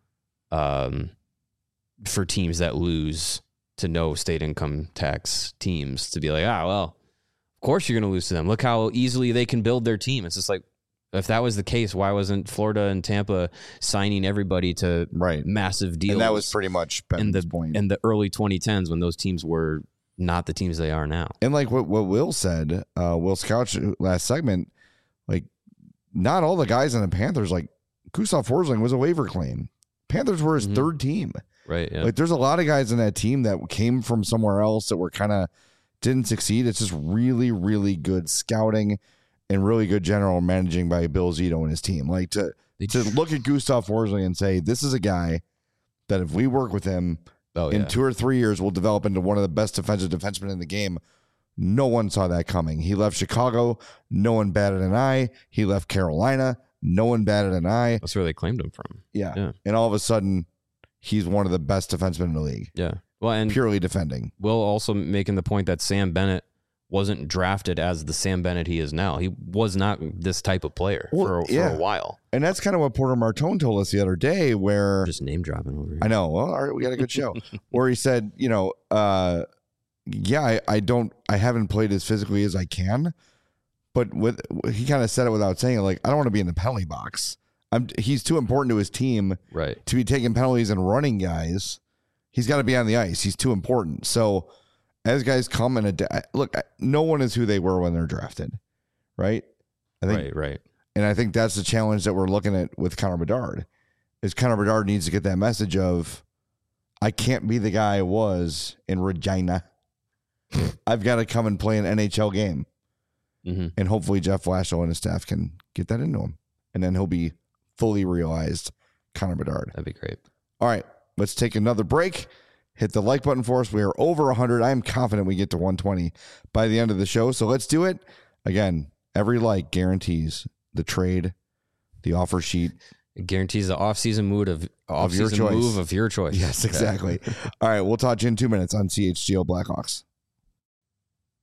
for teams that lose to no state income tax teams to be like, well, of course you're going to lose to them. Look how easily they can build their team. It's just like, if that was the case, why wasn't Florida and Tampa signing everybody to massive deals? And that was pretty much Ben's point. In the early 2010s when those teams were not the teams they are now. And like what Will said, Will Scouch last segment, like not all the guys in the Panthers, like Gustav Forsling was a waiver claim. Panthers were his third team. Right. Yeah. Like there's a lot of guys in that team that came from somewhere else that were kind of didn't succeed. It's just really, really good scouting and really good general managing by Bill Zito and his team. Like to look at Gustav Forsling and say, this is a guy that if we work with him in 2 or 3 years, we'll develop into one of the best defensive defensemen in the game. No one saw that coming. He left Chicago. No one batted an eye. He left Carolina. No one batted an eye. That's where they claimed him from. Yeah. And all of a sudden, he's one of the best defensemen in the league. Yeah. Well, and purely defending. Will also making the point that Sam Bennett wasn't drafted as the Sam Bennett he is now. He was not this type of player for a while. And that's kind of what Porter Martone told us the other day, where just name dropping over here. I know. Well, all right, we got a good show. Where he said, I haven't played as physically as I can, but he kind of said it without saying it. Like, I don't want to be in the penalty box. He's too important to his team, right, to be taking penalties and running guys. He's got to be on the ice. He's too important. So as guys come and look, no one is who they were when they're drafted, right? I think, right. And I think that's the challenge that we're looking at with Connor Bedard. Is Connor Bedard needs to get that message of, I can't be the guy I was in Regina. I've got to come and play an NHL game. Mm-hmm. And hopefully Jeff Blashill and his staff can get that into him. And then he'll be fully realized Connor Bedard. That'd be great. All right, let's take another break. Hit the like button for us. We are over 100. I'm confident we get to 120 by the end of the show. So let's do it. Again, every like guarantees the trade, the offer sheet. It guarantees the off-season move of your choice. Yes, exactly. All right, we'll talk to you in 2 minutes on CHGO Blackhawks.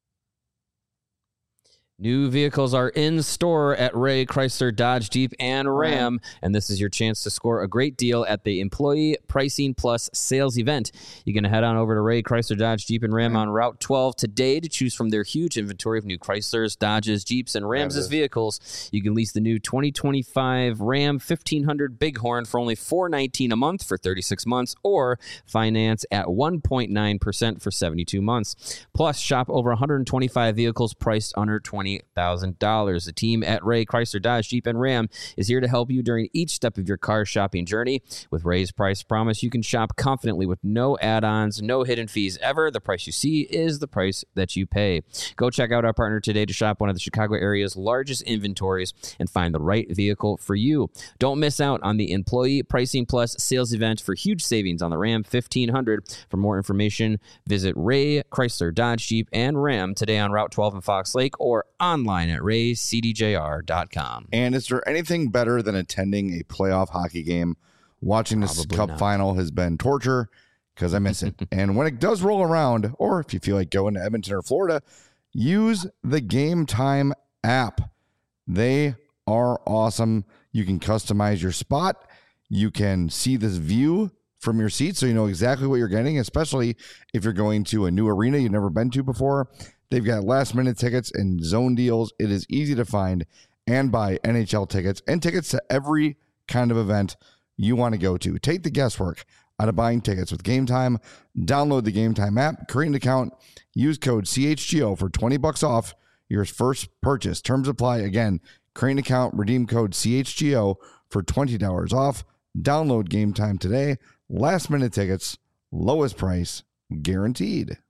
New vehicles are in store at Ray Chrysler Dodge Jeep and Ram, and this is your chance to score a great deal at the Employee Pricing Plus sales event. You can head on over to Ray Chrysler Dodge Jeep and Ram on Route 12 today to choose from their huge inventory of new Chryslers, Dodges, Jeeps, and Rams vehicles. You can lease the new 2025 Ram 1500 Bighorn for only $419 a month for 36 months, or finance at 1.9% for 72 months. Plus, shop over 125 vehicles priced under $20,000. The team at Ray Chrysler Dodge Jeep and Ram is here to help you during each step of your car shopping journey. With Ray's Price Promise, you can shop confidently with no add-ons, no hidden fees ever. The price you see is the price that you pay. Go check out our partner today to shop one of the Chicago area's largest inventories and find the right vehicle for you. Don't miss out on the Employee Pricing Plus sales event for huge savings on the Ram 1500. For more information, visit Ray Chrysler Dodge Jeep and Ram today on Route 12 in Fox Lake or online at raycdjr.com. And is there anything better than attending a playoff hockey game? Watching this Probably cup not. final has been torture because I miss it. And when it does roll around, or if you feel like going to Edmonton or Florida, use the Game Time app. They are awesome. You can customize your spot. You can see this view from your seat so you know exactly what you're getting, especially if you're going to a new arena you've never been to before. They've got last-minute tickets and zone deals. It is easy to find and buy NHL tickets and tickets to every kind of event you want to go to. Take the guesswork out of buying tickets with Game Time. Download the Game Time app, create an account, use code CHGO for $20 off your first purchase. Terms apply. Again, create an account, redeem code CHGO for $20 off. Download Game Time today. Last-minute tickets, lowest price, guaranteed.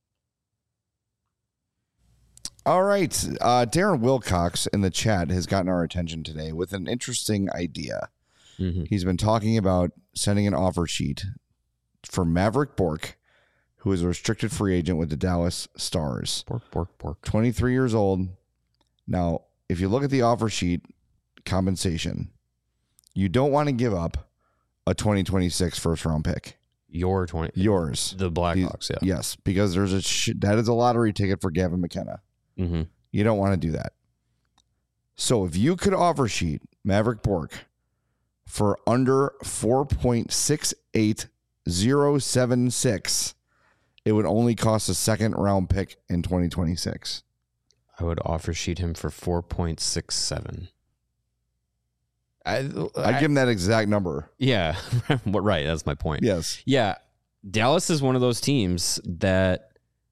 All right. Darren Wilcox in the chat has gotten our attention today with an interesting idea. Mm-hmm. He's been talking about sending an offer sheet for Maverick Bourque, who is a restricted free agent with the Dallas Stars. Bork. 23 years old. Now, if you look at the offer sheet compensation, you don't want to give up a 2026 first round pick. Yours. The Blackhawks, yeah. Yes, because there's that is a lottery ticket for Gavin McKenna. Mm-hmm. You don't want to do that. So if you could offer sheet Maverick Bourque for under 4.68076, it would only cost a second round pick in 2026. I would offer sheet him for 4.67. I'd give him that exact number. Yeah, right. That's my point. Yes. Yeah, Dallas is one of those teams that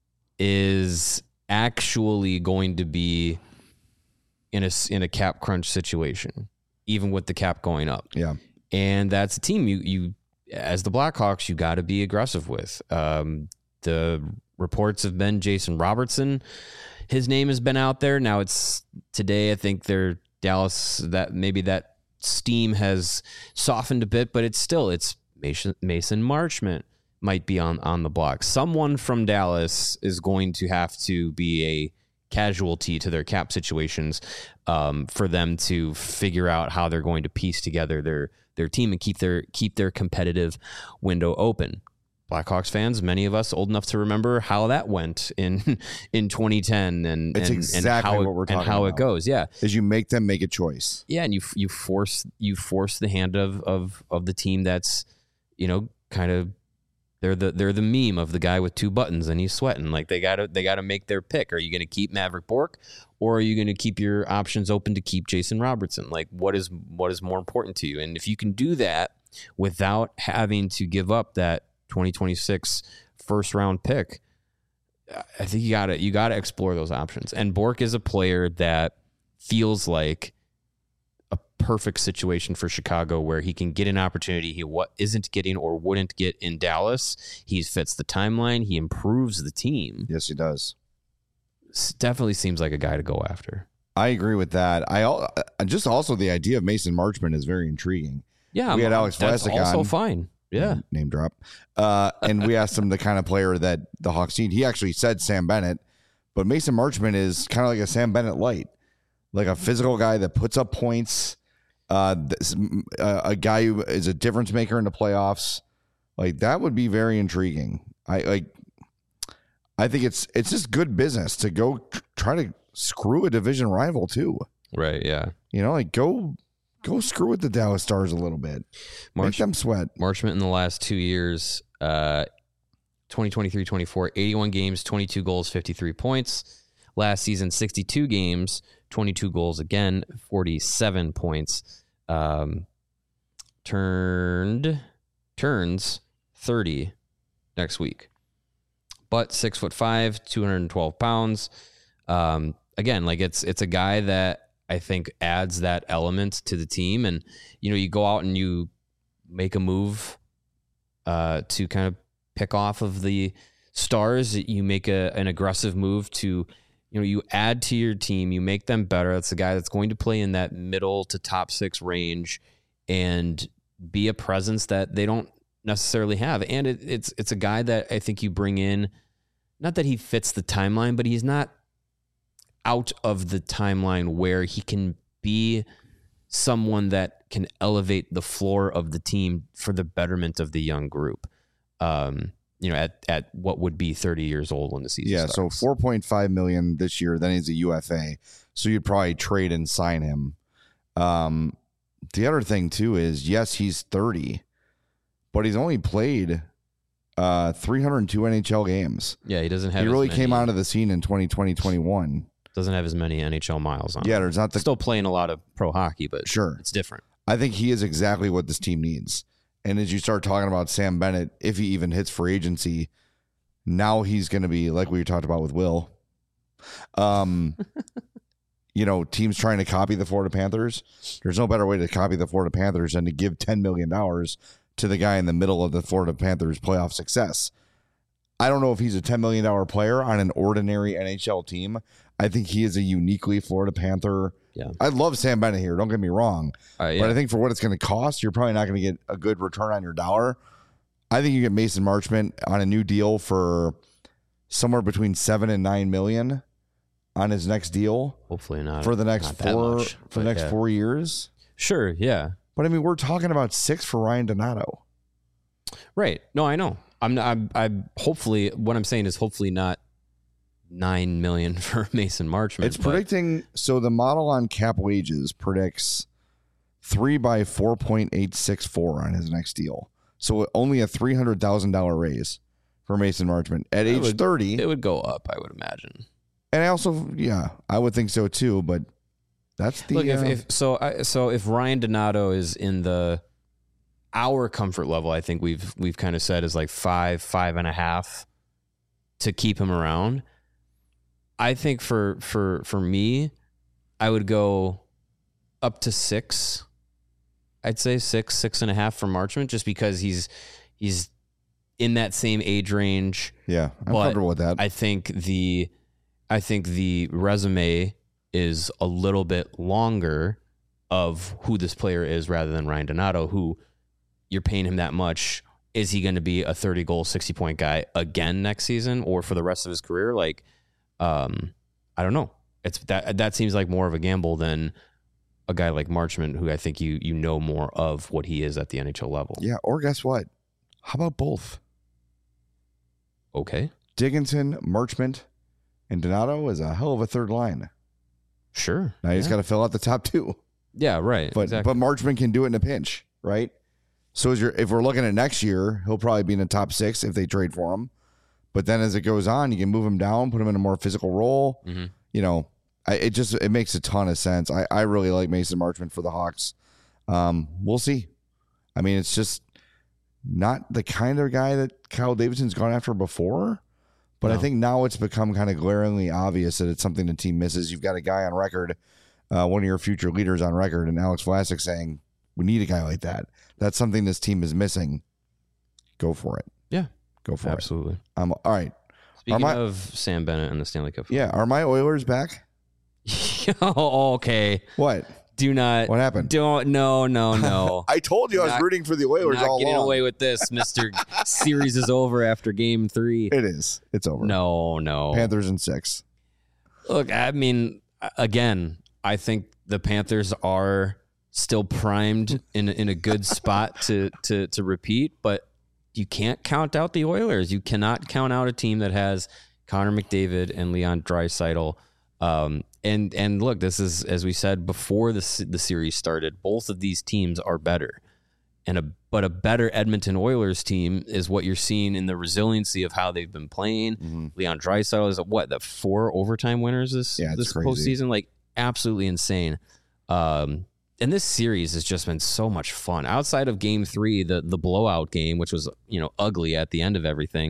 is actually going to be in a cap crunch situation, even with the cap going up. Yeah, and that's a team you as the Blackhawks you got to be aggressive with. The reports have been Jason Robertson. His name has been out there. Now it's today. I think they're Dallas. That maybe that steam has softened a bit, but it's Mason Marchment might be on the block. Someone from Dallas is going to have to be a casualty to their cap situations for them to figure out how they're going to piece together their team and keep their competitive window open. Blackhawks fans, many of us old enough to remember how that went in 2010 and it's exactly how what we're talking and how about. it goes. Yeah, is you make them make a choice. Yeah, and you force the hand of the team that's kind of they're the meme of the guy with two buttons and he's sweating. Like they gotta make their pick. Are you going to keep Maverick Bourque or are you going to keep your options open to keep Jason Robertson? Like what is more important to you? And if you can do that without having to give up that 2026 first round pick, I think you gotta explore those options. And Bourque is a player that feels like a perfect situation for Chicago where he can get an opportunity he isn't getting or wouldn't get in Dallas. He fits the timeline. He improves the team. Yes, he does. Definitely seems like a guy to go after. I agree with that. Just also the idea of Mason Marchment is very intriguing. Yeah, we had Alex that's Vlasic also on. Fine. Yeah, name drop. And we asked him the kind of player that the Hawks need. He actually said Sam Bennett, but Mason Marchment is kind of like a Sam Bennett light, like a physical guy that puts up points. A guy who is a difference maker in the playoffs. Like that would be very intriguing. I think it's just good business to go try to screw a division rival too. Right. Yeah. You know, like go screw with the Dallas Stars a little bit. Make them sweat. Marchment in the last 2 years, 2023-24, 81 games, 22 goals, 53 points. Last season, 62 games, 22 goals again, 47 points. Turns 30 next week. But 6'5", 212 pounds. Again, like it's a guy that I think adds that element to the team. And, you know, you go out and you make a move to kind of pick off of the Stars. You make an aggressive move to, you know, you add to your team, you make them better. That's the guy that's going to play in that middle to top six range and be a presence that they don't necessarily have. And it's a guy that I think you bring in, not that he fits the timeline, but he's not out of the timeline where he can be someone that can elevate the floor of the team for the betterment of the young group. You know, at what would be 30 years old when the season starts. So $4.5 million this year. Then he's a UFA, so you'd probably trade and sign him. The other thing too is, yes, he's 30, but he's only played 302 NHL games. Yeah, he doesn't have. He really came onto the scene in 2020-21. Doesn't have as many NHL miles on. Yeah, there's not still playing a lot of pro hockey, but sure, it's different. I think he is exactly what this team needs. And as you start talking about Sam Bennett, if he even hits free agency, now he's going to be like we talked about with Will. You know, teams trying to copy the Florida Panthers. There's no better way to copy the Florida Panthers than to give $10 million to the guy in the middle of the Florida Panthers playoff success. I don't know if he's a $10 million player on an ordinary NHL team. I think he is a uniquely Florida Panther. Yeah, I love Sam Bennett here. Don't get me wrong. Yeah. But I think for what it's going to cost, you're probably not going to get a good return on your dollar. I think you get Mason Marchment on a new deal for somewhere between $7 and $9 million on his next deal. Hopefully not for the next much, 4 years. Sure, yeah. But I mean, we're talking about 6 for Ryan Donato. Right. No, I know. I'm hopefully what I'm saying is hopefully not $9 million for Mason Marchment. It's predicting, so the model on Cap Wages predicts 3 by 4.864 on his next deal. So only a $300,000 raise for Mason Marchment at age 30. It would go up, I would imagine. And I also, I would think so too. But that's the look. If Ryan Donato is in our comfort level, I think we've kind of said is like 5.5 to keep him around. I think for me, I would go up to 6. I'd say 6.5 for Marchment, just because he's in that same age range. Yeah, I'm comfortable with that. I think the resume is a little bit longer of who this player is rather than Ryan Donato, who you're paying him that much. Is he going to be a 30-goal, 60-point guy again next season or for the rest of his career? Like, I don't know. It's that seems like more of a gamble than a guy like Marchment, who I think you know more of what he is at the NHL level. Yeah, or guess what? How about both? Okay. Dickinson, Marchment, and Donato is a hell of a third line. Sure. Now you just got to fill out the top 2. Yeah, right. But exactly. but Marchment can do it in a pinch, right? So if we're looking at next year, he'll probably be in the top 6 if they trade for him. But then as it goes on, you can move him down, put him in a more physical role. Mm-hmm. You know, it makes a ton of sense. I really like Mason Marchment for the Hawks. We'll see. I mean, it's just not the kind of guy that Kyle Davidson's gone after before. But I think now it's become kind of glaringly obvious that it's something the team misses. You've got a guy on record, one of your future leaders on record, and Alex Vlasic saying, we need a guy like that. That's something this team is missing. Go for it. Yeah. Go for Absolutely. it. All right. Speaking of Sam Bennett and the Stanley Cup. Yeah. Are my Oilers back? Oh, okay. What? Do not. What happened? No. I told you I was rooting for the Oilers all along. Not getting away with this, Mr. Series is over after game 3. It is. It's over. No. Panthers in 6. Look, I mean, again, I think the Panthers are still primed in a good spot to repeat, but you can't count out the Oilers. You cannot count out a team that has Connor McDavid and Leon Draisaitl And look, this is, as we said before the series started, both of these teams are better. But a better Edmonton Oilers team is what you're seeing in the resiliency of how they've been playing. Mm-hmm. Leon Draisaitl is the 4 overtime winners this postseason, like absolutely insane. And this series has just been so much fun. Outside of Game 3, the blowout game, which was ugly at the end of everything,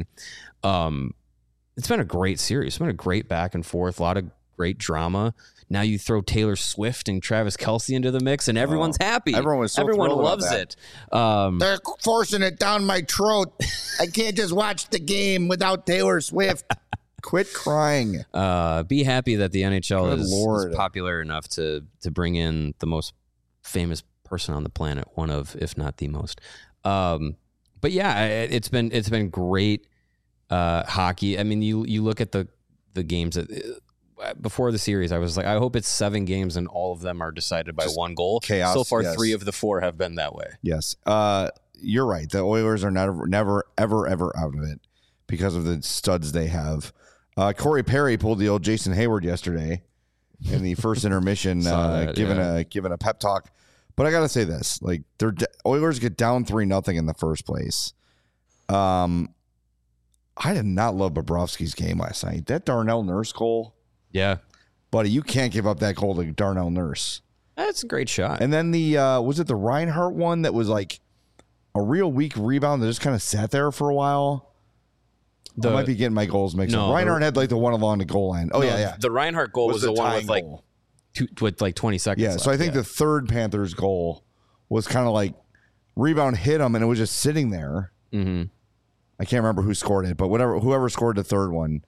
it's been a great series. It's been a great back and forth, a lot of great drama. Now you throw Taylor Swift and Travis Kelce into the mix, and everyone's happy. Everyone loves it. They're forcing it down my throat. I can't just watch the game without Taylor Swift. Quit crying. Be happy that the NHL is popular enough to bring in the most famous person on the planet, one of, if not the most. But yeah, it's been great hockey. I mean, you look at the games that. Before the series, I was like, I hope it's 7 games and all of them are decided by just one goal. Chaos. So far, 3 of the 4 have been that way. Yes. You're right. The Oilers are never, ever out of it because of the studs they have. Corey Perry pulled the old Jason Hayward yesterday in the first intermission, giving a pep talk. But I got to say this, like, Oilers get down 3-0 in the first place. I did not love Bobrovsky's game last night. That Darnell Nurse goal. Yeah. Buddy, you can't give up that goal to Darnell Nurse. That's a great shot. And then was it the Reinhart one that was like a real weak rebound that just kind of sat there for a while? I might be getting my goals mixed up. Reinhart had like the one along the goal line. Oh, yeah. The Reinhart goal was the one with like 20 seconds left. So I think the third Panthers goal was kind of like rebound hit him and it was just sitting there. Mm-hmm. I can't remember who scored it, but whoever scored the third one.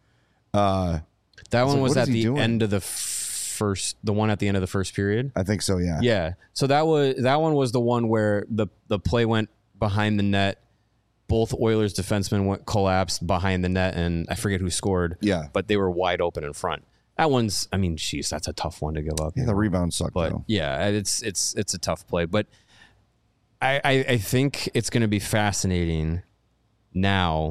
That one was at the end of the the one at the end of the first period. I think so, yeah. Yeah. So that one was the one where the play went behind the net. Both Oilers defensemen collapsed behind the net, and I forget who scored. Yeah. But they were wide open in front. That one's, I mean, geez, that's a tough one to give up. Yeah, the rebound sucked, but though. Yeah, it's a tough play. But I think it's going to be fascinating now.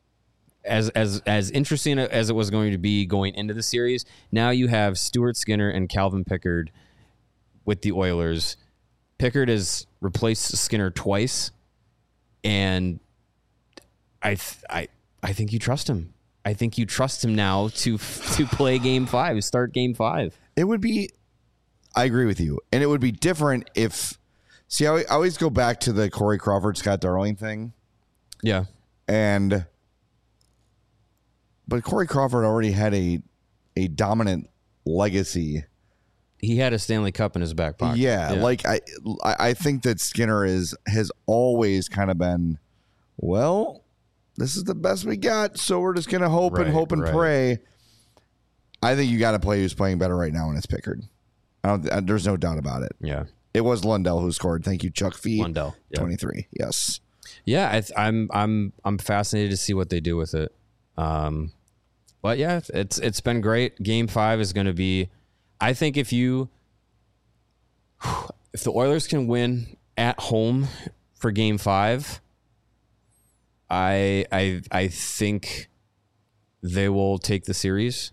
As interesting as it was going to be going into the series, now you have Stuart Skinner and Calvin Pickard with the Oilers. Pickard has replaced Skinner twice, and I think you trust him. I think you trust him now to play Game 5, start Game 5. It would be. I agree with you, and it would be different if. See, I always go back to the Corey Crawford, Scott Darling thing. Yeah, But Corey Crawford already had a dominant legacy. He had a Stanley Cup in his back pocket. Yeah. Like I think that Skinner has always kind of been, well, this is the best we got, so we're just gonna hope and pray. I think you got to play who's playing better right now, and it's Pickard. There's no doubt about it. Yeah, it was Lundell who scored. Thank you, Chuck Fee. Lundell, 23. Yes. Yeah, I'm fascinated to see what they do with it. But yeah, it's been great. Game 5 is going to be, I think if the Oilers can win at home for Game 5, I think they will take the series.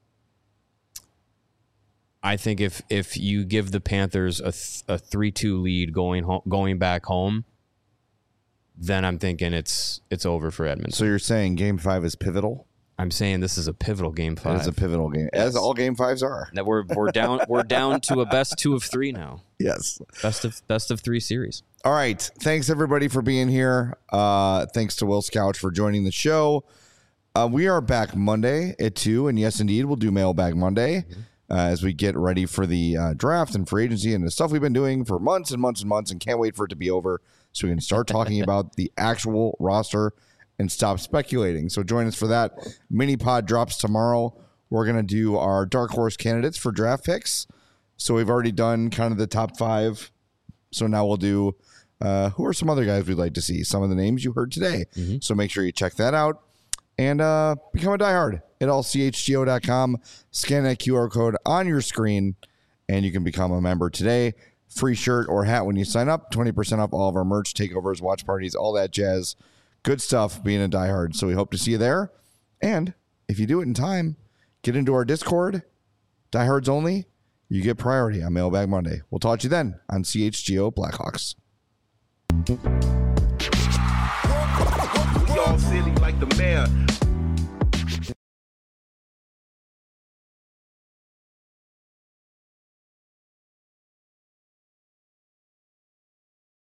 I think if you give the Panthers a 3-2 lead going back home, then I'm thinking it's over for Edmonton. So you're saying Game 5 is pivotal? I'm saying this is a pivotal Game 5. It's a pivotal game, as all Game 5s are. That we're down to a best 2 of 3 now. Yes, best of 3 series. All right, thanks everybody for being here. Thanks to Will Scouch for joining the show. We are back Monday at 2, and yes, indeed, we'll do Mailbag Monday as we get ready for the draft and free agency and the stuff we've been doing for months and months and months, and can't wait for it to be over so we can start talking about the actual roster and stop speculating. So join us for that. Mini pod drops tomorrow. We're going to do our dark horse candidates for draft picks. So we've already done kind of the top 5. So now we'll do who are some other guys we'd like to see. Some of the names you heard today. Mm-hmm. So make sure you check that out and become a diehard at allchgo.com. Scan that QR code on your screen and you can become a member today. Free shirt or hat when you sign up. 20% off all of our merch, takeovers, watch parties, all that jazz. Good stuff being a diehard. So we hope to see you there. And if you do it in time, get into our Discord Diehards only, you get priority on Mailbag Monday. We'll talk to you then on CHGO Blackhawks. We all silly like the mayor.